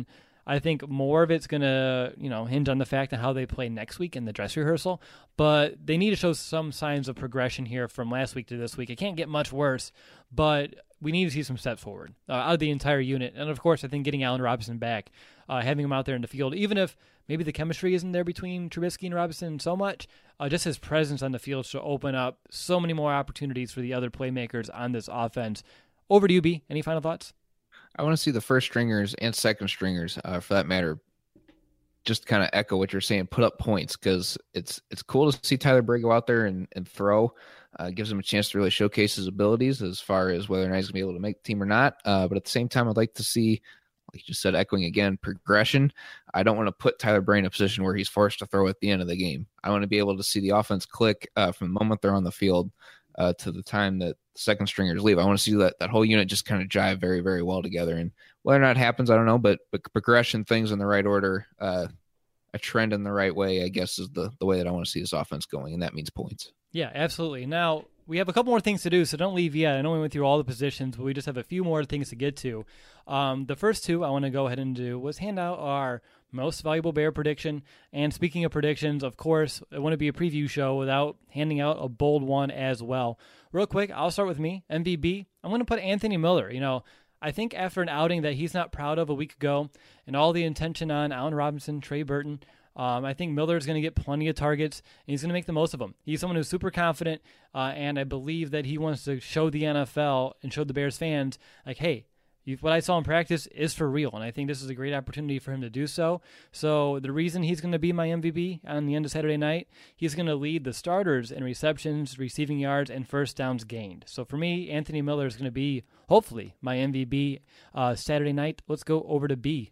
I think more of it's going to, hinge on the fact of how they play next week in the dress rehearsal. But they need to show some signs of progression here from last week to this week. It can't get much worse, but we need to see some steps forward out of the entire unit. And, of course, I think getting Allen Robinson back, having him out there in the field, even if maybe the chemistry isn't there between Trubisky and Robinson so much, just his presence on the field should open up so many more opportunities for the other playmakers on this offense. Over to you, B. Any final thoughts? I want to see the first stringers and second stringers, for that matter, just kind of echo what you're saying, put up points, because it's cool to see Tyler Bray go out there and throw. Gives him a chance to really showcase his abilities as far as whether or not he's going to be able to make the team or not. But at the same time, I'd like to see, like you just said, echoing again, progression. I don't want to put Tyler Bray in a position where he's forced to throw at the end of the game. I want to be able to see the offense click from the moment they're on the field to the time that second stringers leave. I want to see that whole unit just kind of jive very, very well together. And whether or not it happens, I don't know, but progression, things in the right order, a trend in the right way, I guess, is the way that I want to see this offense going, and that means points. Yeah, absolutely. Now, we have a couple more things to do, so don't leave yet. I know we went through all the positions, but we just have a few more things to get to. The first two I want to go ahead and do was hand out our most valuable Bear prediction. And speaking of predictions, of course, it wouldn't be a preview show without handing out a bold one as well. Real quick, I'll start with me, MVB. I'm going to put Anthony Miller. I think after an outing that he's not proud of a week ago and all the intention on Allen Robinson, Trey Burton, I think Miller is going to get plenty of targets, and he's going to make the most of them. He's someone who's super confident, and I believe that he wants to show the NFL and show the Bears fans, like, hey, what I saw in practice is for real, and I think this is a great opportunity for him to do so. So the reason he's going to be my MVP on the end of Saturday night, he's going to lead the starters in receptions, receiving yards, and first downs gained. So for me, Anthony Miller is going to be, hopefully, my MVP Saturday night. Let's go over to B.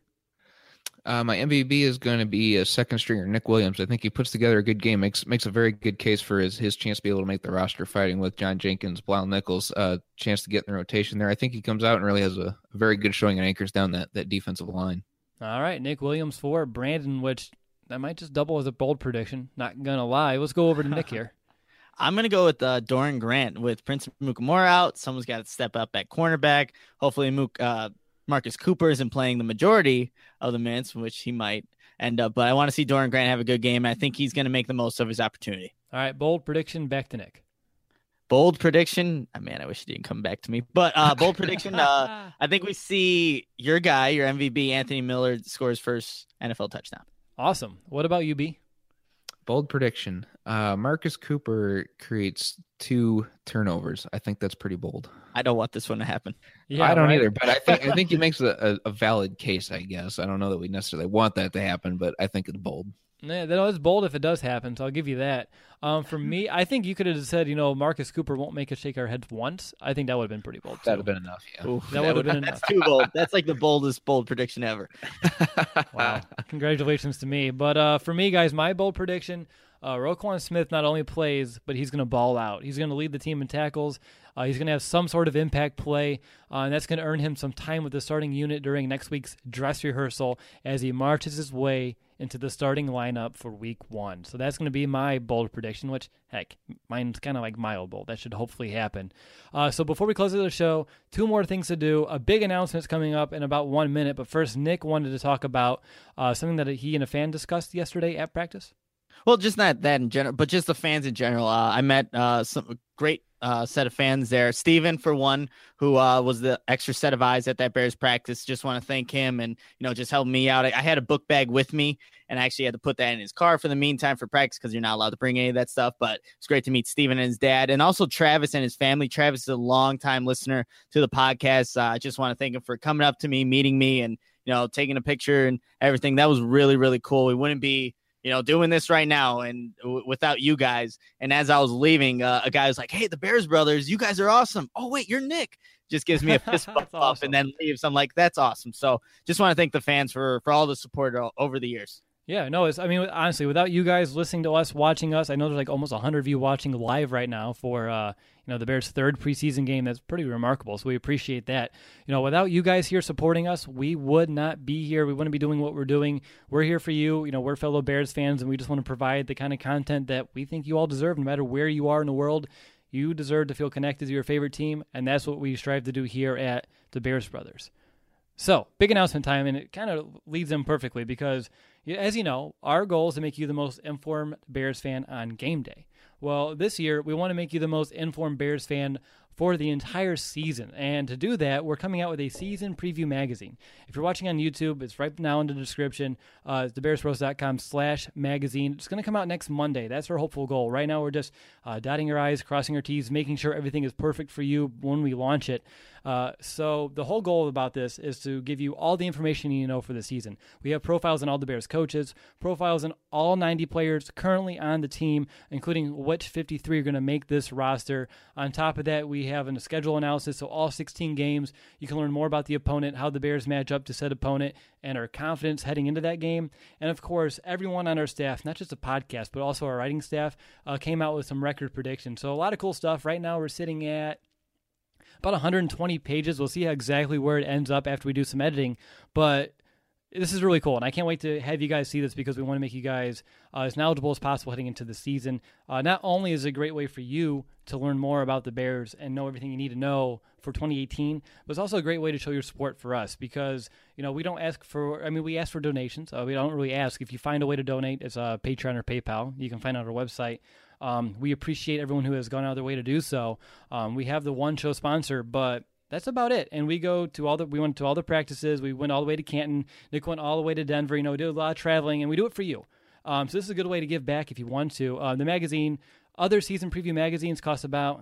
My MVP is going to be a second stringer, Nick Williams. I think he puts together a good game, makes a very good case for his chance to be able to make the roster, fighting with John Jenkins, Blal Nichols, chance to get in the rotation there. I think he comes out and really has a very good showing and anchors down that defensive line. All right, Nick Williams for Brandon, which that might just double as a bold prediction. Not going to lie. Let's go over to Nick here. I'm going to go with Doran Grant. With Prince Mukamura out, someone's got to step up at cornerback. Hopefully Marcus Cooper isn't playing the majority of the minutes, which he might end up. But I want to see Doran Grant have a good game. I think he's going to make the most of his opportunity. All right, bold prediction, back to Nick. Bold prediction. Oh, man, I wish he didn't come back to me. But bold prediction, I think we see your guy, your MVP, Anthony Miller, scores first NFL touchdown. Awesome. What about you, B? Bold prediction. Marcus Cooper creates 2 turnovers. I think that's pretty bold. I don't want this one to happen. Yeah, I don't either, but I think he makes a valid case, I guess. I don't know that we necessarily want that to happen, but I think it's bold. Yeah, that is bold if it does happen, so I'll give you that. For me, I think you could have said, Marcus Cooper won't make us shake our heads once. I think that would have been pretty bold. That would have been enough, yeah. Ooh, that would have been enough. That's too bold. That's like the boldest bold prediction ever. Wow. Congratulations to me. But for me, guys, my bold prediction, Roquan Smith not only plays, but he's going to ball out. He's going to lead the team in tackles. He's going to have some sort of impact play, and that's going to earn him some time with the starting unit during next week's dress rehearsal as he marches his way into the starting lineup for week 1. So that's going to be my bold prediction, which, heck, mine's kind of like mild bold. That should hopefully happen. So before we close the show, 2 more things to do. A big announcement's coming up in about 1 minute, but first, Nick wanted to talk about something that he and a fan discussed yesterday at practice. Well, just not that in general, but just the fans in general. I met some great set of fans there. Steven, for one, who was the extra set of eyes at that Bears practice. Just want to thank him and, just helping me out. I had a book bag with me and I actually had to put that in his car for the meantime for practice because you're not allowed to bring any of that stuff. But it's great to meet Steven and his dad, and also Travis and his family. Travis is a longtime listener to the podcast. I just want to thank him for coming up to me, meeting me, and, taking a picture and everything. That was really, really cool. We wouldn't be doing this right now and without you guys. And as I was leaving, a guy was like, "Hey, the Bears brothers, you guys are awesome." "Oh, wait, you're Nick." Just gives me a fist bump up and then leaves. I'm like, that's awesome. So just want to thank the fans for all the support over the years. Yeah, no, honestly, without you guys listening to us, watching us, I know there's like almost 100 of you watching live right now for, the Bears' 3rd preseason game. That's pretty remarkable, so we appreciate that. Without you guys here supporting us, we would not be here. We wouldn't be doing what we're doing. We're here for you. We're fellow Bears fans, and we just want to provide the kind of content that we think you all deserve, no matter where you are in the world. You deserve to feel connected to your favorite team, and that's what we strive to do here at the Bears Brothers. So, big announcement time, and it kind of leads in perfectly because, as you know, our goal is to make you the most informed Bears fan on game day. Well, this year, we want to make you the most informed Bears fan for the entire season. And to do that, we're coming out with a season preview magazine. If you're watching on YouTube, it's right now in the description. It's thebearsroast.com/magazine. It's going to come out next Monday. That's our hopeful goal. Right now, we're just dotting our I's, crossing our T's, making sure everything is perfect for you when we launch it. So the whole goal about this is to give you all the information you need to know for the season. We have profiles on all the Bears coaches, profiles on all 90 players currently on the team, including which 53 are going to make this roster. On top of that, we have a schedule analysis, so all 16 games. You can learn more about the opponent, how the Bears match up to said opponent, and our confidence heading into that game. And of course, everyone on our staff, not just the podcast, but also our writing staff, came out with some record predictions. So a lot of cool stuff. Right now, we're sitting at about 120 pages. We'll see exactly where it ends up after we do some editing, but this is really cool, and I can't wait to have you guys see this because we want to make you guys as knowledgeable as possible heading into the season. Not only is it a great way for you to learn more about the Bears and know everything you need to know for 2018, but it's also a great way to show your support for us because, we don't ask for, we ask for donations. We don't really ask. If you find a way to donate, it's Patreon or PayPal. You can find it on our website. We appreciate everyone who has gone out of their way to do so. We have the one show sponsor, but that's about it. And we went to all the practices. We went all the way to Canton. Nick went all the way to Denver. We did a lot of traveling, and we do it for you. So this is a good way to give back if you want to. The magazine, other season preview magazines cost about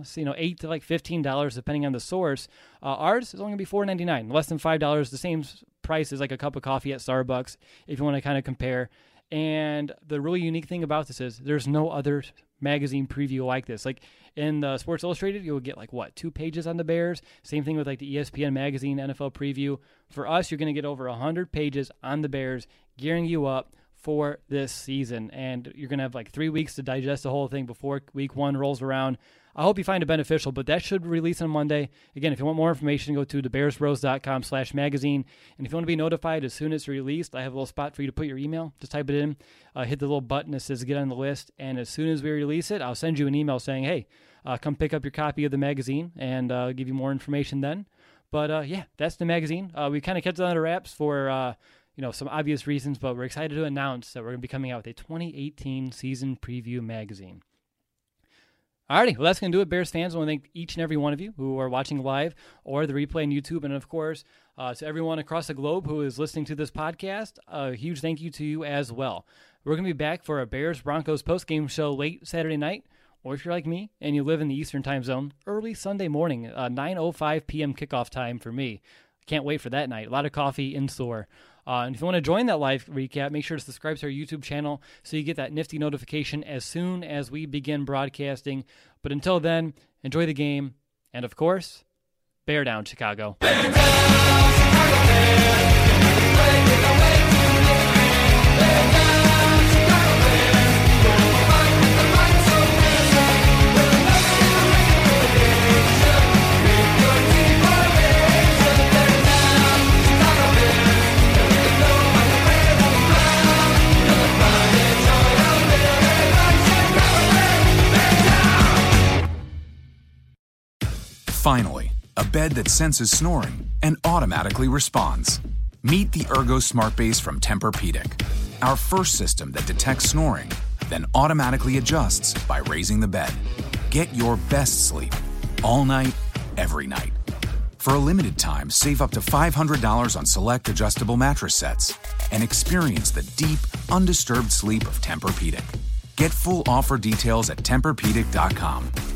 $8 to $15 depending on the source. Ours is only going to be $4.99, less than $5. The same price as like a cup of coffee at Starbucks if you want to kind of compare. And the really unique thing about this is there's no other magazine preview like this. Like in the Sports Illustrated, you'll get 2 pages on the Bears. Same thing with the ESPN magazine NFL preview. For us, you're going to get over 100 pages on the Bears, gearing you up for this season. And you're going to have 3 weeks to digest the whole thing before week 1 rolls around. I hope you find it beneficial, but that should release on Monday. Again, if you want more information, go to thebearsroast.com/magazine. And if you want to be notified as soon as it's released, I have a little spot for you to put your email. Just type it in, hit the little button that says get on the list. And as soon as we release it, I'll send you an email saying, hey, come pick up your copy of the magazine and give you more information then. But that's the magazine. We kind of kept it under wraps for some obvious reasons, but we're excited to announce that we're going to be coming out with a 2018 season preview magazine. Alrighty, well, that's going to do it, Bears fans. I want to thank each and every one of you who are watching live or the replay on YouTube. And, of course, to everyone across the globe who is listening to this podcast, a huge thank you to you as well. We're going to be back for a Bears-Broncos postgame show late Saturday night. Or if you're like me and you live in the Eastern time zone, early Sunday morning, 9:05 p.m. kickoff time for me. Can't wait for that night. A lot of coffee in store. And if you want to join that live recap, make sure to subscribe to our YouTube channel so you get that nifty notification as soon as we begin broadcasting. But until then, enjoy the game. And, of course, bear down, Chicago. Bear down, Chicago Bears. Play with the way to live. Bear down, Chicago Bears. We'll fight with the fight so fierce. We'll never get away from the nation. With your team formation. Bear down, Chicago Bears. Finally, a bed that senses snoring and automatically responds. Meet the Ergo Smart Base from Tempur-Pedic, our first system that detects snoring, then automatically adjusts by raising the bed. Get your best sleep all night, every night. For a limited time, save up to $500 on select adjustable mattress sets and experience the deep, undisturbed sleep of Tempur-Pedic. Get full offer details at TempurPedic.com.